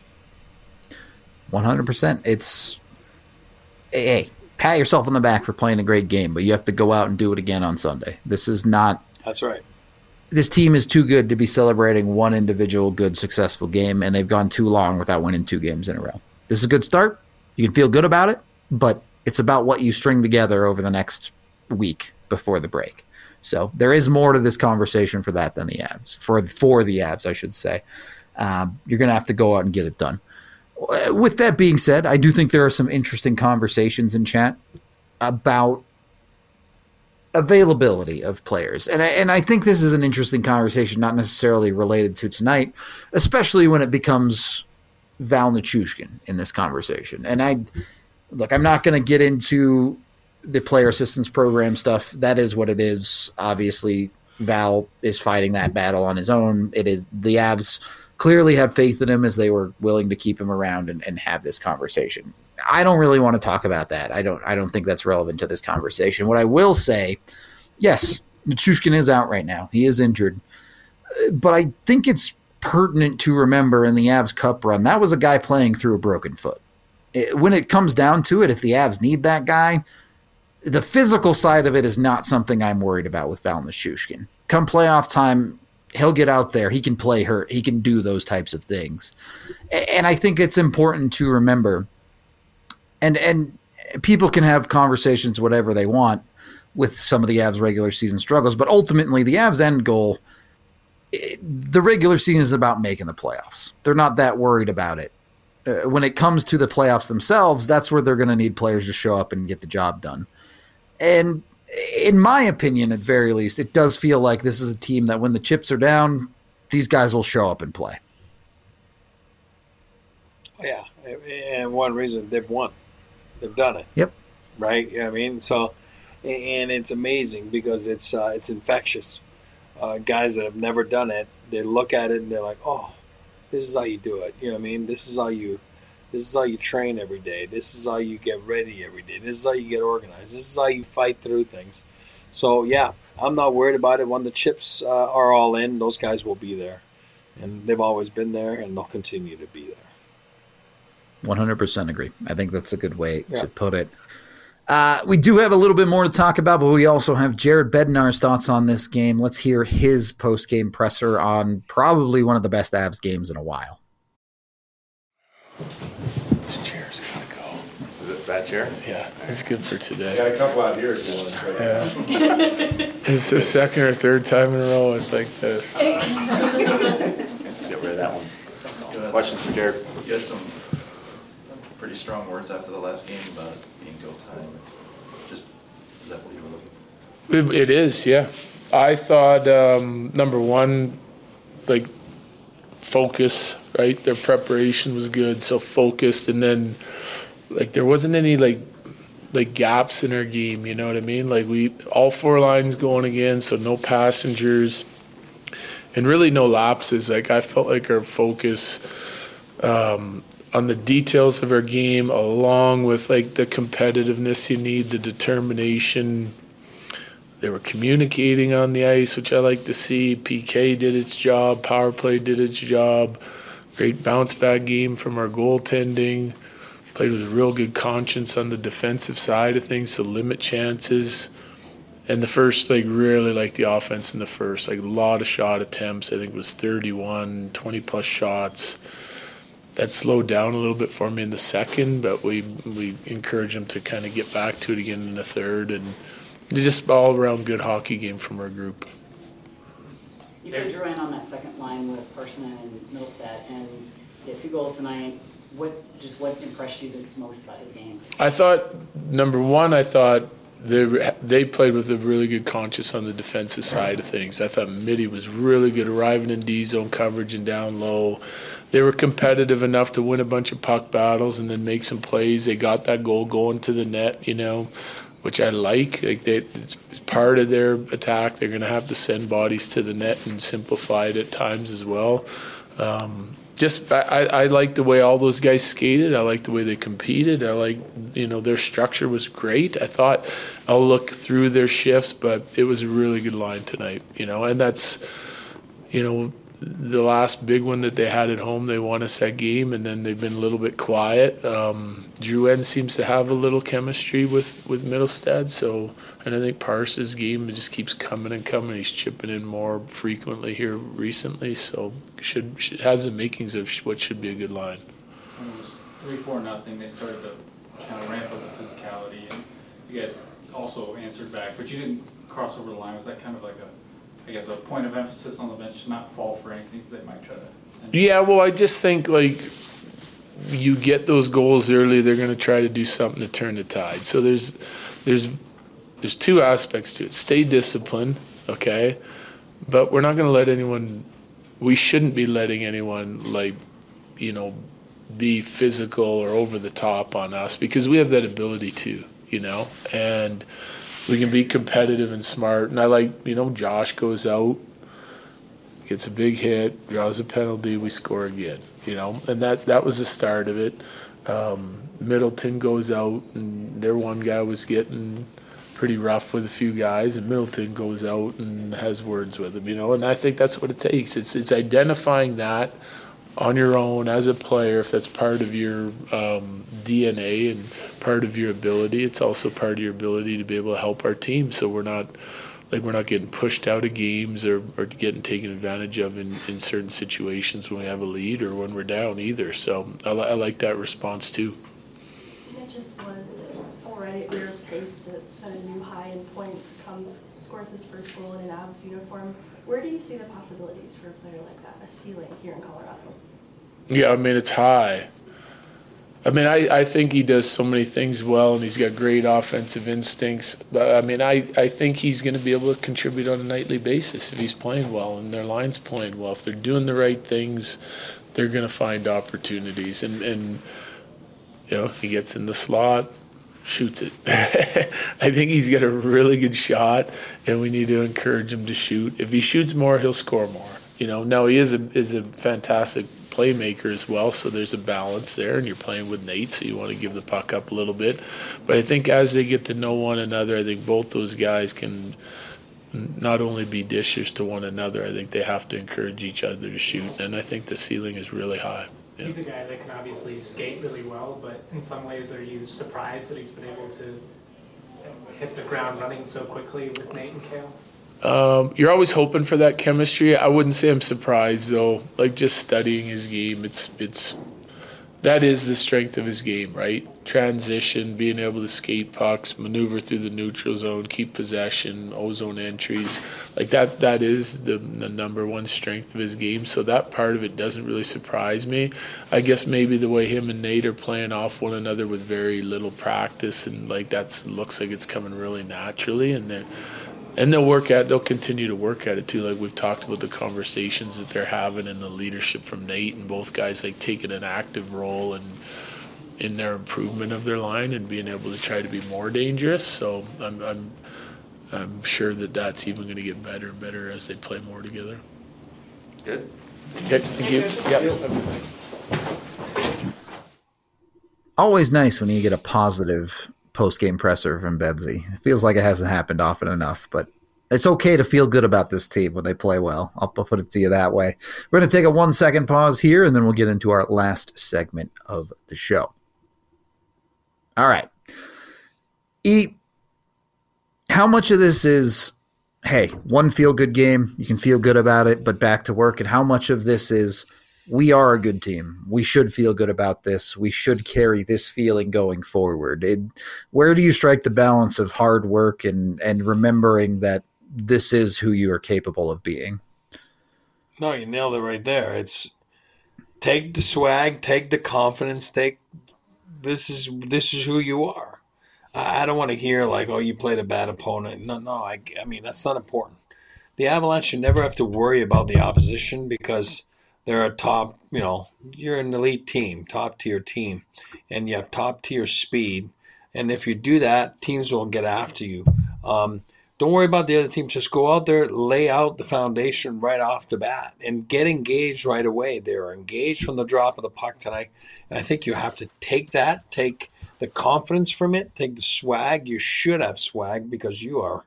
100%. It's, hey, pat yourself on the back for playing a great game, but you have to go out and do it again on Sunday. This is not. That's right. This team is too good to be celebrating one individual good, successful game, and they've gone too long without winning 2 games in a row. This is a good start. You can feel good about it, but it's about what you string together over the next week before the break. So there is more to this conversation for that than the Avs. For the Avs, I should say. You're going to have to go out and get it done. With that being said, I do think there are some interesting conversations in chat about availability of players. And I think this is an interesting conversation, not necessarily related to tonight, especially when it becomes Val Nichushkin in this conversation. And I'm not going to get into the player assistance program stuff. That is what it is. Obviously, Val is fighting that battle on his own. It is the Avs clearly have faith in him as they were willing to keep him around and have this conversation. I don't really want to talk about that. I don't think that's relevant to this conversation. What I will say, yes, Nichushkin is out right now. He is injured. But I think it's pertinent to remember in the Avs Cup run, that was a guy playing through a broken foot. When it comes down to it, if the Avs need that guy, the physical side of it is not something I'm worried about with Val Nichushkin. Come playoff time, he'll get out there. He can play hurt. He can do those types of things. And I think it's important to remember, and people can have conversations whatever they want with some of the Avs regular season struggles, but ultimately the Avs end goal, the regular season is about making the playoffs. They're not that worried about it. When it comes to the playoffs themselves, that's where they're going to need players to show up and get the job done. And in my opinion, at very least, it does feel like this is a team that when the chips are down, these guys will show up and play. Yeah, and one reason they've won. They've done it. Yep. Right? You know what I mean? So, and it's amazing because it's infectious. Guys that have never done it, they look at it and they're like, oh, this is how you do it. You know what I mean? This is how you This is how you train every day. This is how you get ready every day. This is how you get organized. This is how you fight through things. So, yeah, I'm not worried about it. When the chips are all in, those guys will be there. And they've always been there, and they'll continue to be there. 100% agree. I think that's a good way to put it. We do have a little bit more to talk about, but we also have Jared Bednar's thoughts on this game. Let's hear his post-game presser on probably one of the best Avs games in a while. This chair's gotta go. Is this that chair? Yeah, it's good for today. I got a couple out here if you want. Yeah. It's the second or third time in a row it's like this. Get rid of that one. Questions for Jared? You had some pretty strong words after the last game about being go time. Just, is that what you were looking for? It is, yeah. I thought, number one, like, focus, right? Their preparation was good, so focused, and then like there wasn't any like gaps in our game, you know what I mean? Like we all four lines going again, so no passengers and really no lapses. Like I felt like our focus on the details of our game, along with like the competitiveness you need, the determination. They were communicating on the ice, which I like to see. PK did its job. Power play did its job. Great bounce-back game from our goaltending. Played with a real good conscience on the defensive side of things to limit chances. And the first, really like the offense in the first. A lot of shot attempts. I think it was 31, 20-plus shots. That slowed down a little bit for me in the second, but we encouraged them to kind of get back to it again in the third. And just all around good hockey game from our group. You put Drouin on that second line with Parson and Middlestat, and he had 2 goals tonight. What impressed you the most about his game? I thought, number one, they played with a really good conscience on the defensive side of things. I thought Mitty was really good arriving in D-zone coverage and down low. They were competitive enough to win a bunch of puck battles and then make some plays. They got that goal going to the net, which I like. It's part of their attack. They're going to have to send bodies to the net and simplify it at times as well. I like the way all those guys skated. I like the way they competed. I like, their structure was great. I thought I'll look through their shifts, but it was a really good line tonight, and that's, the last big one that they had at home, they won us that game, and then they've been a little bit quiet. Drouin seems to have a little chemistry with Middlestat, and I think Parsons' game just keeps coming and coming. He's chipping in more frequently here recently, so has the makings of what should be a good line. When it was 3-4-0, they started to kind of ramp up the physicality, and you guys also answered back, but you didn't cross over the line. Was that kind of like a point of emphasis on the bench to not fall for anything they might try to send you? Yeah, well, I just think, you get those goals early, they're going to try to do something to turn the tide. So there's 2 aspects to it. Stay disciplined, okay? But we're not going to let anyone – we shouldn't be letting anyone, be physical or over the top on us because we have that ability to, and – we can be competitive and smart. And I like, Josh goes out, gets a big hit, draws a penalty, we score again, And that was the start of it. Middleton goes out, and their one guy was getting pretty rough with a few guys, and Middleton goes out and has words with him, And I think that's what it takes. It's identifying that on your own as a player, if that's part of your DNA and part of your ability. It's also part of your ability to be able to help our team, so we're not getting pushed out of games or getting taken advantage of in certain situations when we have a lead or when we're down either. So I like that response too. It just was already at your pace to set a new high in points, scores his first goal in an Avs uniform. Where do you see the possibilities for a player like that, a ceiling here in Colorado? Yeah, it's high. I think he does so many things well, and he's got great offensive instincts. But, I think he's going to be able to contribute on a nightly basis if he's playing well and their line's playing well. If they're doing the right things, they're going to find opportunities. And he gets in the slot, shoots it. I think he's got a really good shot, and we need to encourage him to shoot. If he shoots more, he'll score more. Now he is a fantastic playmaker as well, so there's a balance there, and you're playing with Nate, so you want to give the puck up a little bit. But I think as they get to know one another, I think both those guys can not only be dishers to one another, I think they have to encourage each other to shoot, and I think the ceiling is really high. Yeah. He's a guy that can obviously skate really well, but in some ways, are you surprised that he's been able to hit the ground running so quickly with Nate and Cale? You're always hoping for that chemistry. I wouldn't say I'm surprised though. Like just studying his game, it's that is the strength of his game, right? Transition, being able to skate pucks, maneuver through the neutral zone, keep possession, ozone entries. Like that is the number one strength of his game. So that part of it doesn't really surprise me. I guess maybe the way him and Nate are playing off one another with very little practice, and like that looks like it's coming really naturally, and they'll continue to work at it too. Like we've talked about the conversations that they're having and the leadership from Nate, and both guys like taking an active role in their improvement of their line and being able to try to be more dangerous. So I'm sure that's even going to get better and better as they play more together. Good. Okay, thank you. Yep. Always nice when you get a positive post-game presser from Bedsy. It feels like it hasn't happened often enough, but it's okay to feel good about this team when they play well. I'll put it to you that way. We're going to take a 1-second pause here, and then we'll get into our last segment of the show. All right. How much of this is, hey, one feel-good game, you can feel good about it, but back to work, and how much of this is, we are a good team. We should feel good about this. We should carry this feeling going forward. Where do you strike the balance of hard work and remembering that this is who you are capable of being? No, you nailed it right there. It's take the swag, take the confidence, this is who you are. I don't want to hear like, oh, you played a bad opponent. No, I mean, that's not important. The Avalanche should never have to worry about the opposition because they're a top, you're an elite team, top tier team, and you have top tier speed. And if you do that, teams will get after you. Don't worry about the other teams. Just go out there, lay out the foundation right off the bat, and get engaged right away. They're engaged from the drop of the puck tonight. And I think you have to take the confidence from it, take the swag. You should have swag because you are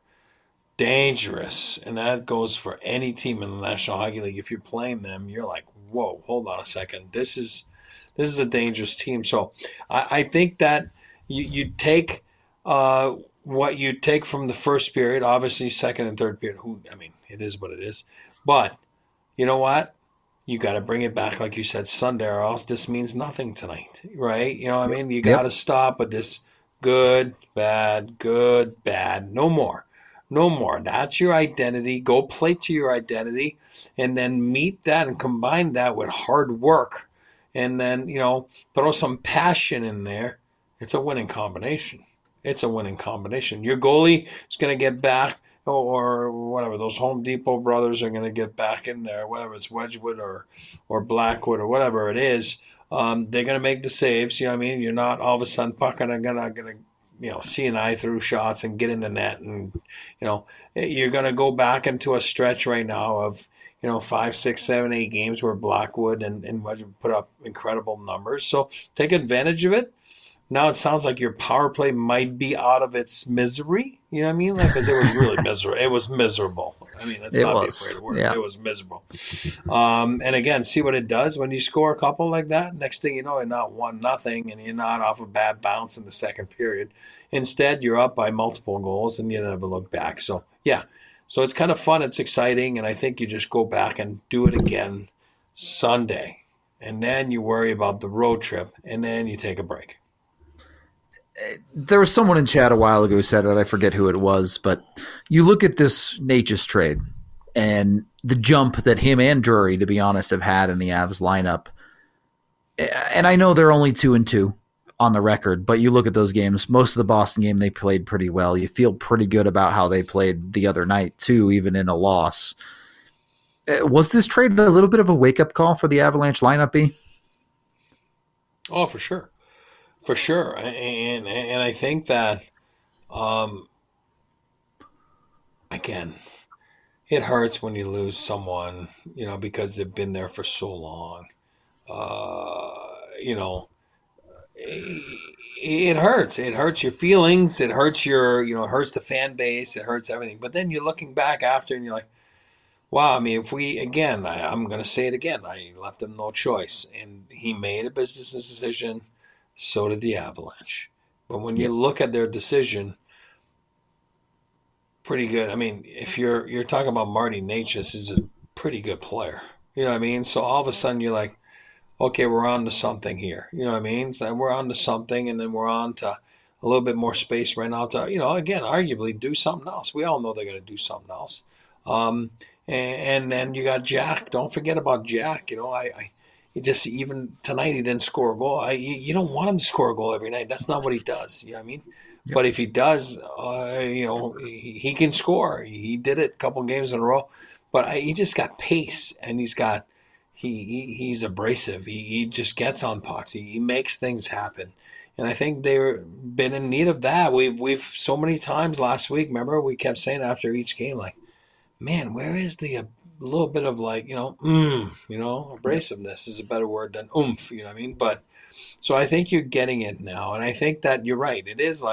dangerous, and that goes for any team in the National Hockey League. If you're playing them, you're like, whoa, hold on a second. This is a dangerous team. So I think that you take what you take from the first period, obviously second and third period. It is what it is. But you know what? You got to bring it back, like you said, Sunday, or else this means nothing tonight, right? You know what I mean? You got to stop with this good, bad, no more. No more. That's your identity. Go play to your identity and then meet that and combine that with hard work and then, throw some passion in there. It's a winning combination. Your goalie is going to get back or whatever. Those Home Depot brothers are going to get back in there, whatever it's Wedgwood or Blackwood or whatever it is. They're going to make the saves. You know what I mean? You're not all of a sudden pucking and going to see an eye through shots and get in the net. And, you're going to go back into a stretch right now of, 5, 6, 7, 8 games where Blackwood and Wedgwood put up incredible numbers. So take advantage of it. Now it sounds like your power play might be out of its misery. You know what I mean? Because it was really miserable. It was miserable. Let's not be afraid of words. Yeah. It was miserable. And again, see what it does when you score a couple like that. Next thing you know, you're not 1-0, and you're not off a bad bounce in the second period. Instead, you're up by multiple goals, and you never look back. So, yeah. So it's kind of fun. It's exciting, and I think you just go back and do it again Sunday. And then you worry about the road trip, and then you take a break. There was someone in chat a while ago who said that, I forget who it was, but you look at this Natchez trade and the jump that him and Drury, to be honest, have had in the Avs lineup. And I know they're only 2-2 on the record, but you look at those games, most of the Boston game, they played pretty well. You feel pretty good about how they played the other night too, even in a loss. Was this trade a little bit of a wake-up call for the Avalanche lineup, B? Oh, for sure. For sure. And I think that, again, it hurts when you lose someone, because they've been there for so long. you know, it hurts. It hurts your feelings. It hurts it hurts the fan base. It hurts everything. But then you're looking back after and you're like, wow, I mean, if we, again, I'm going to say it again, I left him no choice. And he made a business decision. So did the Avalanche. But when you look at their decision, pretty good. I mean, if you're talking about Marty Necas is a pretty good player. You know what I mean? So all of a sudden you're like, okay, we're on to something here. You know what I mean? So we're on to something, and then we're on to a little bit more space right now to, again, arguably do something else. We all know they're going to do something else. And then you got Jack. Don't forget about Jack. He just, even tonight he didn't score a goal. You don't want him to score a goal every night. That's not what he does. You know what I mean? Yep. But if he does, he can score. He did it a couple games in a row. But he just got pace, and he's abrasive. He just gets on pucks. He makes things happen. And I think they've been in need of that. We've so many times last week, remember, we kept saying after each game, like, man, where is the little bit of abrasiveness is a better word than oomph, you know what I mean? But so I think you're getting it now. And I think that you're right. It is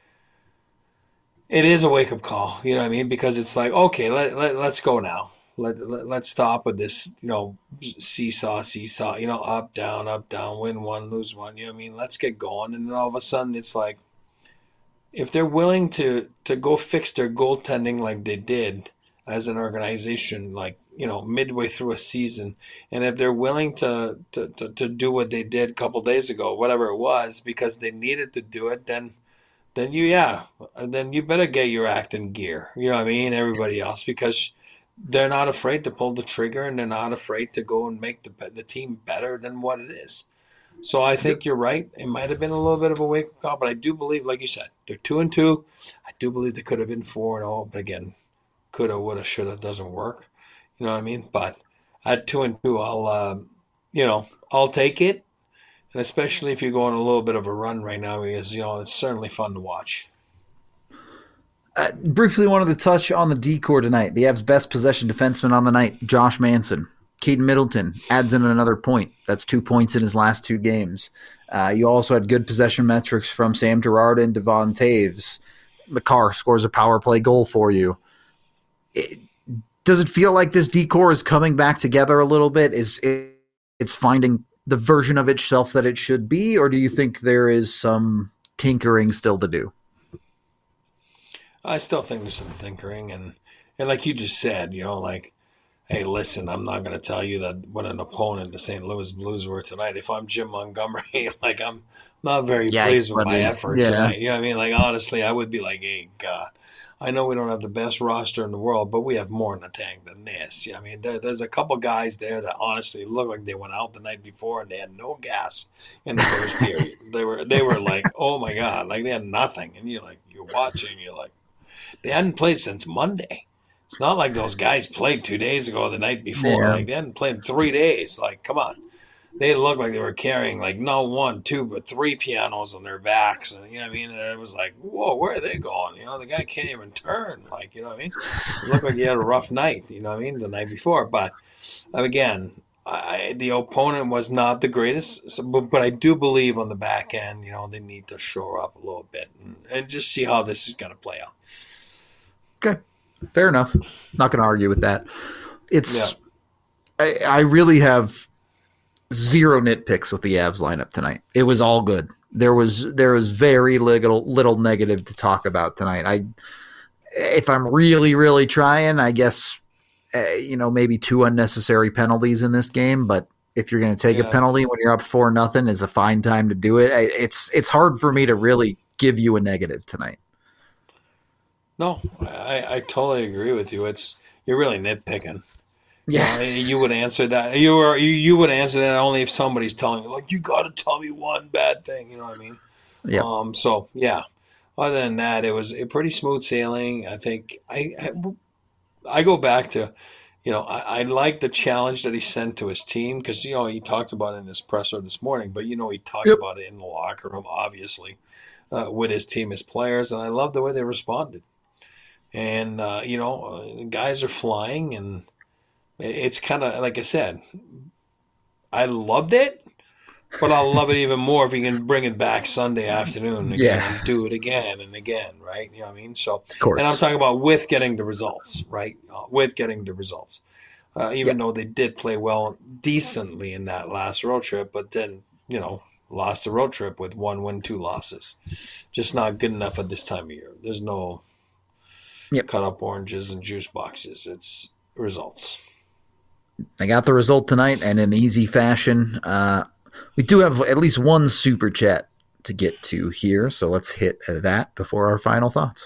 a wake-up call, you know what I mean? Because it's like, okay, let's go now. Let's stop with this, seesaw, up, down, win one, lose one, you know what I mean? Let's get going. And then all of a sudden it's like, if they're willing to go fix their goaltending like they did as an organization, midway through a season, and if they're willing to do what they did a couple days ago, whatever it was, because they needed to do it, then you better get your act in gear. You know what I mean? Everybody else, because they're not afraid to pull the trigger, and they're not afraid to go and make the team better than what it is. So I think you're right. It might have been a little bit of a wake-up call, but I do believe, like you said, they're 2-2. I do believe they could have been 4-0, but again, coulda, woulda, shoulda doesn't work. You know what I mean? But at 2-2, I'll take it. And especially if you're going a little bit of a run right now, because, it's certainly fun to watch. Briefly wanted to touch on the D-core tonight. The Avs' best possession defenseman on the night, Josh Manson. Keaton Middleton adds in another point. That's 2 points in his last 2 games. You also had good possession metrics from Sam Girard and Devon Taves. Makar scores a power play goal for you. Does it feel like this D-core is coming back together a little bit? It's finding the version of itself that it should be, or do you think there is some tinkering still to do? I still think there's some tinkering, and like you just said, hey, listen, I'm not going to tell you that what an opponent the St. Louis Blues were tonight. If I'm Jim Montgomery, I'm not very pleased with my effort tonight. You know what I mean? Honestly, I would be like, hey, God, I know we don't have the best roster in the world, but we have more in the tank than this. I mean, there's a couple guys there that honestly look like they went out the night before and they had no gas in the first period. They were like, oh my God, they had nothing. And you're watching, they hadn't played since Monday. It's not like those guys played 2 days ago or the night before. Yeah. They hadn't played in 3 days. Come on. They looked like they were carrying not 1, 2, but 3 pianos on their backs. And, you know what I mean? And it was like, whoa, where are they going? The guy can't even turn. You know what I mean? It looked like he had a rough night, you know what I mean, the night before. But, again, the opponent was not the greatest. But I do believe on the back end, they need to shore up a little bit and just see how this is going to play out. Okay. Fair enough. Not going to argue with that. I really have zero nitpicks with the Avs lineup tonight. It was all good. There was very little negative to talk about tonight. If I'm really, really trying, I guess, maybe 2 unnecessary penalties in this game. But if you're going to take a penalty when you're up 4-0, is a fine time to do it. It's hard for me to really give you a negative tonight. No, I totally agree with you. You're really nitpicking. Yeah, you would answer that. You would answer that only if somebody's telling you, you got to tell me one bad thing. You know what I mean? Yeah. So yeah. Other than that, it was a pretty smooth sailing. I think I go back to, I like the challenge that he sent to his team because he talked about it in his presser this morning, but he talked about it in the locker room, obviously, with his team, his players, and I love the way they responded. And guys are flying and. It's kind of, like I said, I loved it, but I'll love it even more if you can bring it back Sunday afternoon again and do it again and again, right? You know what I mean? So, of course. And I'm talking about with getting the results, right? With getting the results. Even though they did play well decently in that last road trip, but then, lost the road trip with 1 win, 2 losses. Just not good enough at this time of year. There's no cut up oranges and juice boxes. It's results. They got the result tonight, and in easy fashion. We do have at least one super chat to get to here, so let's hit that before our final thoughts.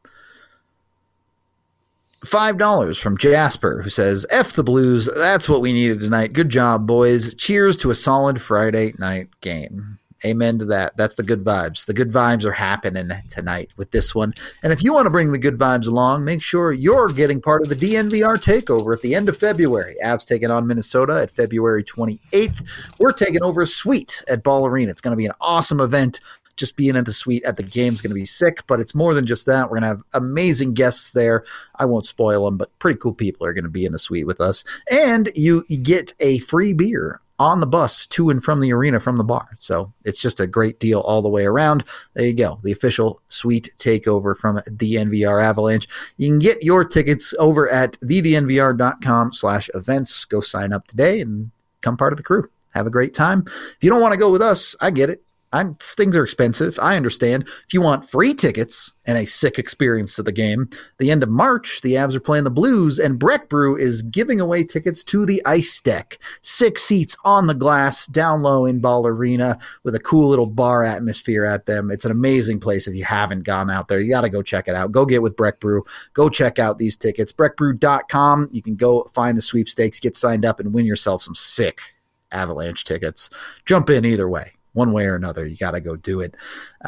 $5 from Jasper, who says, F the Blues, that's what we needed tonight. Good job, boys. Cheers to a solid Friday night game. Amen to that. That's the good vibes. The good vibes are happening tonight with this one. And if you want to bring the good vibes along, make sure you're getting part of the DNVR takeover at the end of February. Avs taking on Minnesota at February 28th. We're taking over a suite at Ball Arena. It's going to be an awesome event. Just being at the suite at the game is going to be sick, but it's more than just that. We're going to have amazing guests there. I won't spoil them, but pretty cool people are going to be in the suite with us. And you get a free beer on the bus to and from the arena from the bar. So it's just a great deal all the way around. There you go. The official suite takeover from DNVR Avalanche. You can get your tickets over at thednvr.com/events. Go sign up today and become part of the crew. Have a great time. If you don't want to go with us, I get it. Things are expensive. I understand. If you want free tickets and a sick experience to the game, the end of March, the Avs are playing the Blues, and Breck Brew is giving away tickets to the Ice Deck. 6 seats on the glass, down low in Ball Arena, with a cool little bar atmosphere at them. It's an amazing place. If you haven't gone out there, you got to go check it out. Go get with Breck Brew. Go check out these tickets. BreckBrew.com. You can go find the sweepstakes, get signed up, and win yourself some sick Avalanche tickets. Jump in either way. One way or another, you got to go do it.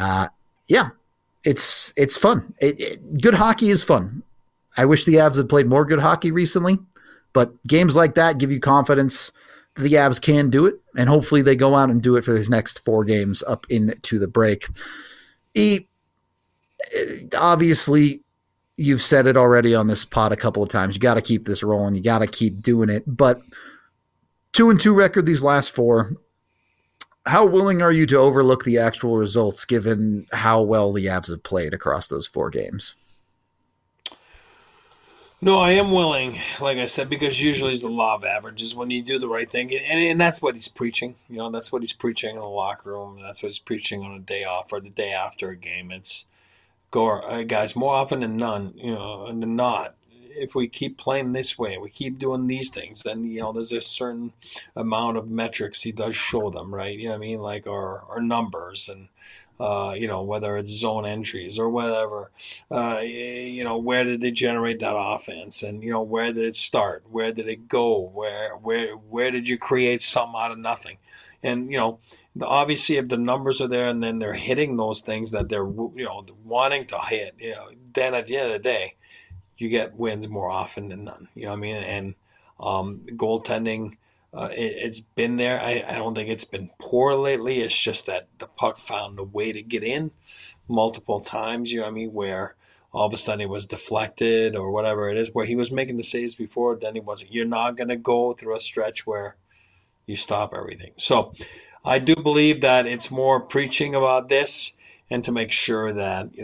It's fun. Good hockey is fun. I wish the Avs had played more good hockey recently, but games like that give you confidence that the Avs can do it, and hopefully they go out and do it for these next 4 games up into the break. Obviously, you've said it already on this pod a couple of times. You got to keep this rolling. You got to keep doing it. But 2-2 record these last 4. How willing are you to overlook the actual results given how well the Avs have played across those 4 games? No, I am willing, like I said, because usually it's the law of averages when you do the right thing. And that's what he's preaching. That's what he's preaching in the locker room. That's what he's preaching on a day off or the day after a game. It's go, guys, more often than none, than not. If we keep playing this way, we keep doing these things, then, there's a certain amount of metrics he does show them, right? You know what I mean? Like our numbers and, whether it's zone entries or whatever, where did they generate that offense and, where did it start? Where did it go? Where did you create something out of nothing? And, obviously if the numbers are there and then they're hitting those things that they're, wanting to hit, then at the end of the day, you get wins more often than none. You know what I mean? And goaltending, it's been there. I don't think it's been poor lately. It's just that the puck found a way to get in multiple times, you know what I mean, where all of a sudden it was deflected or whatever it is, where he was making the saves before, then he wasn't. You're not going to go through a stretch where you stop everything. So I do believe that it's more preaching about this and to make sure that,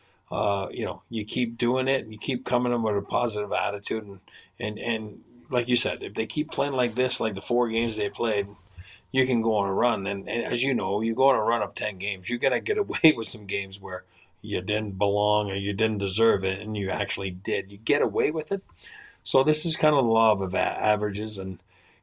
you keep doing it and you keep coming in with a positive attitude. And like you said, if they keep playing like this, like the 4 games they played, you can go on a run. And as you know, you go on a run of 10 games, you're going to get away with some games where you didn't belong or you didn't deserve it, and you actually did. You get away with it. So this is kind of the law of averages. And,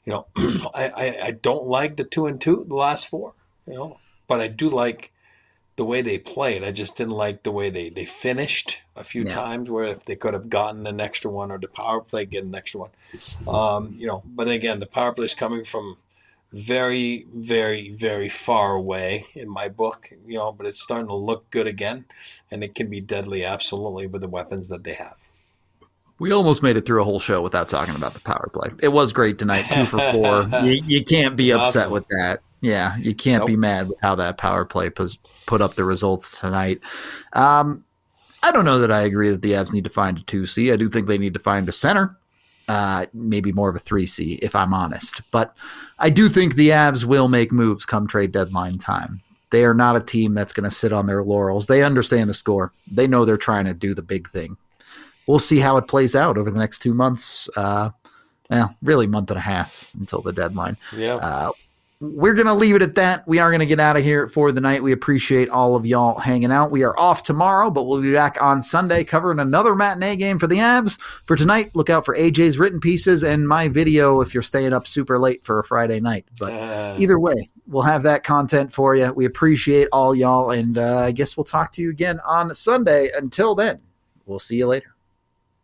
I don't like the 2-2, the last 4, but I do like the way they played. I just didn't like the way they finished a few times, where if they could have gotten an extra one or the power play get an extra one. But again, the power play is coming from very, very, very far away in my book, but it's starting to look good again, and it can be deadly absolutely with the weapons that they have. We almost made it through a whole show without talking about the power play. It was great tonight, 2 for 4. You can't be upset awesome with that. Yeah, you can't be mad with how that power play put up the results tonight. I don't know that I agree that the Avs need to find a 2C. I do think they need to find a center. maybe more of a 3C if I'm honest. But I do think the Avs will make moves come trade deadline time. They are not a team that's going to sit on their laurels. They understand the score. They know they're trying to do the big thing. We'll see how it plays out over the next 2 months. Really month and a half until the deadline. Yeah. We're going to leave it at that. We are going to get out of here for the night. We appreciate all of y'all hanging out. We are off tomorrow, but we'll be back on Sunday covering another matinee game for the Avs. For tonight, look out for AJ's written pieces and my video if you're staying up super late for a Friday night. But either way, we'll have that content for you. We appreciate all y'all, and I guess we'll talk to you again on Sunday. Until then, we'll see you later.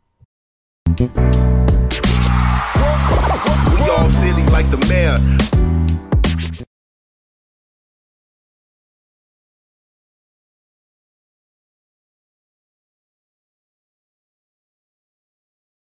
We all city like the mayor.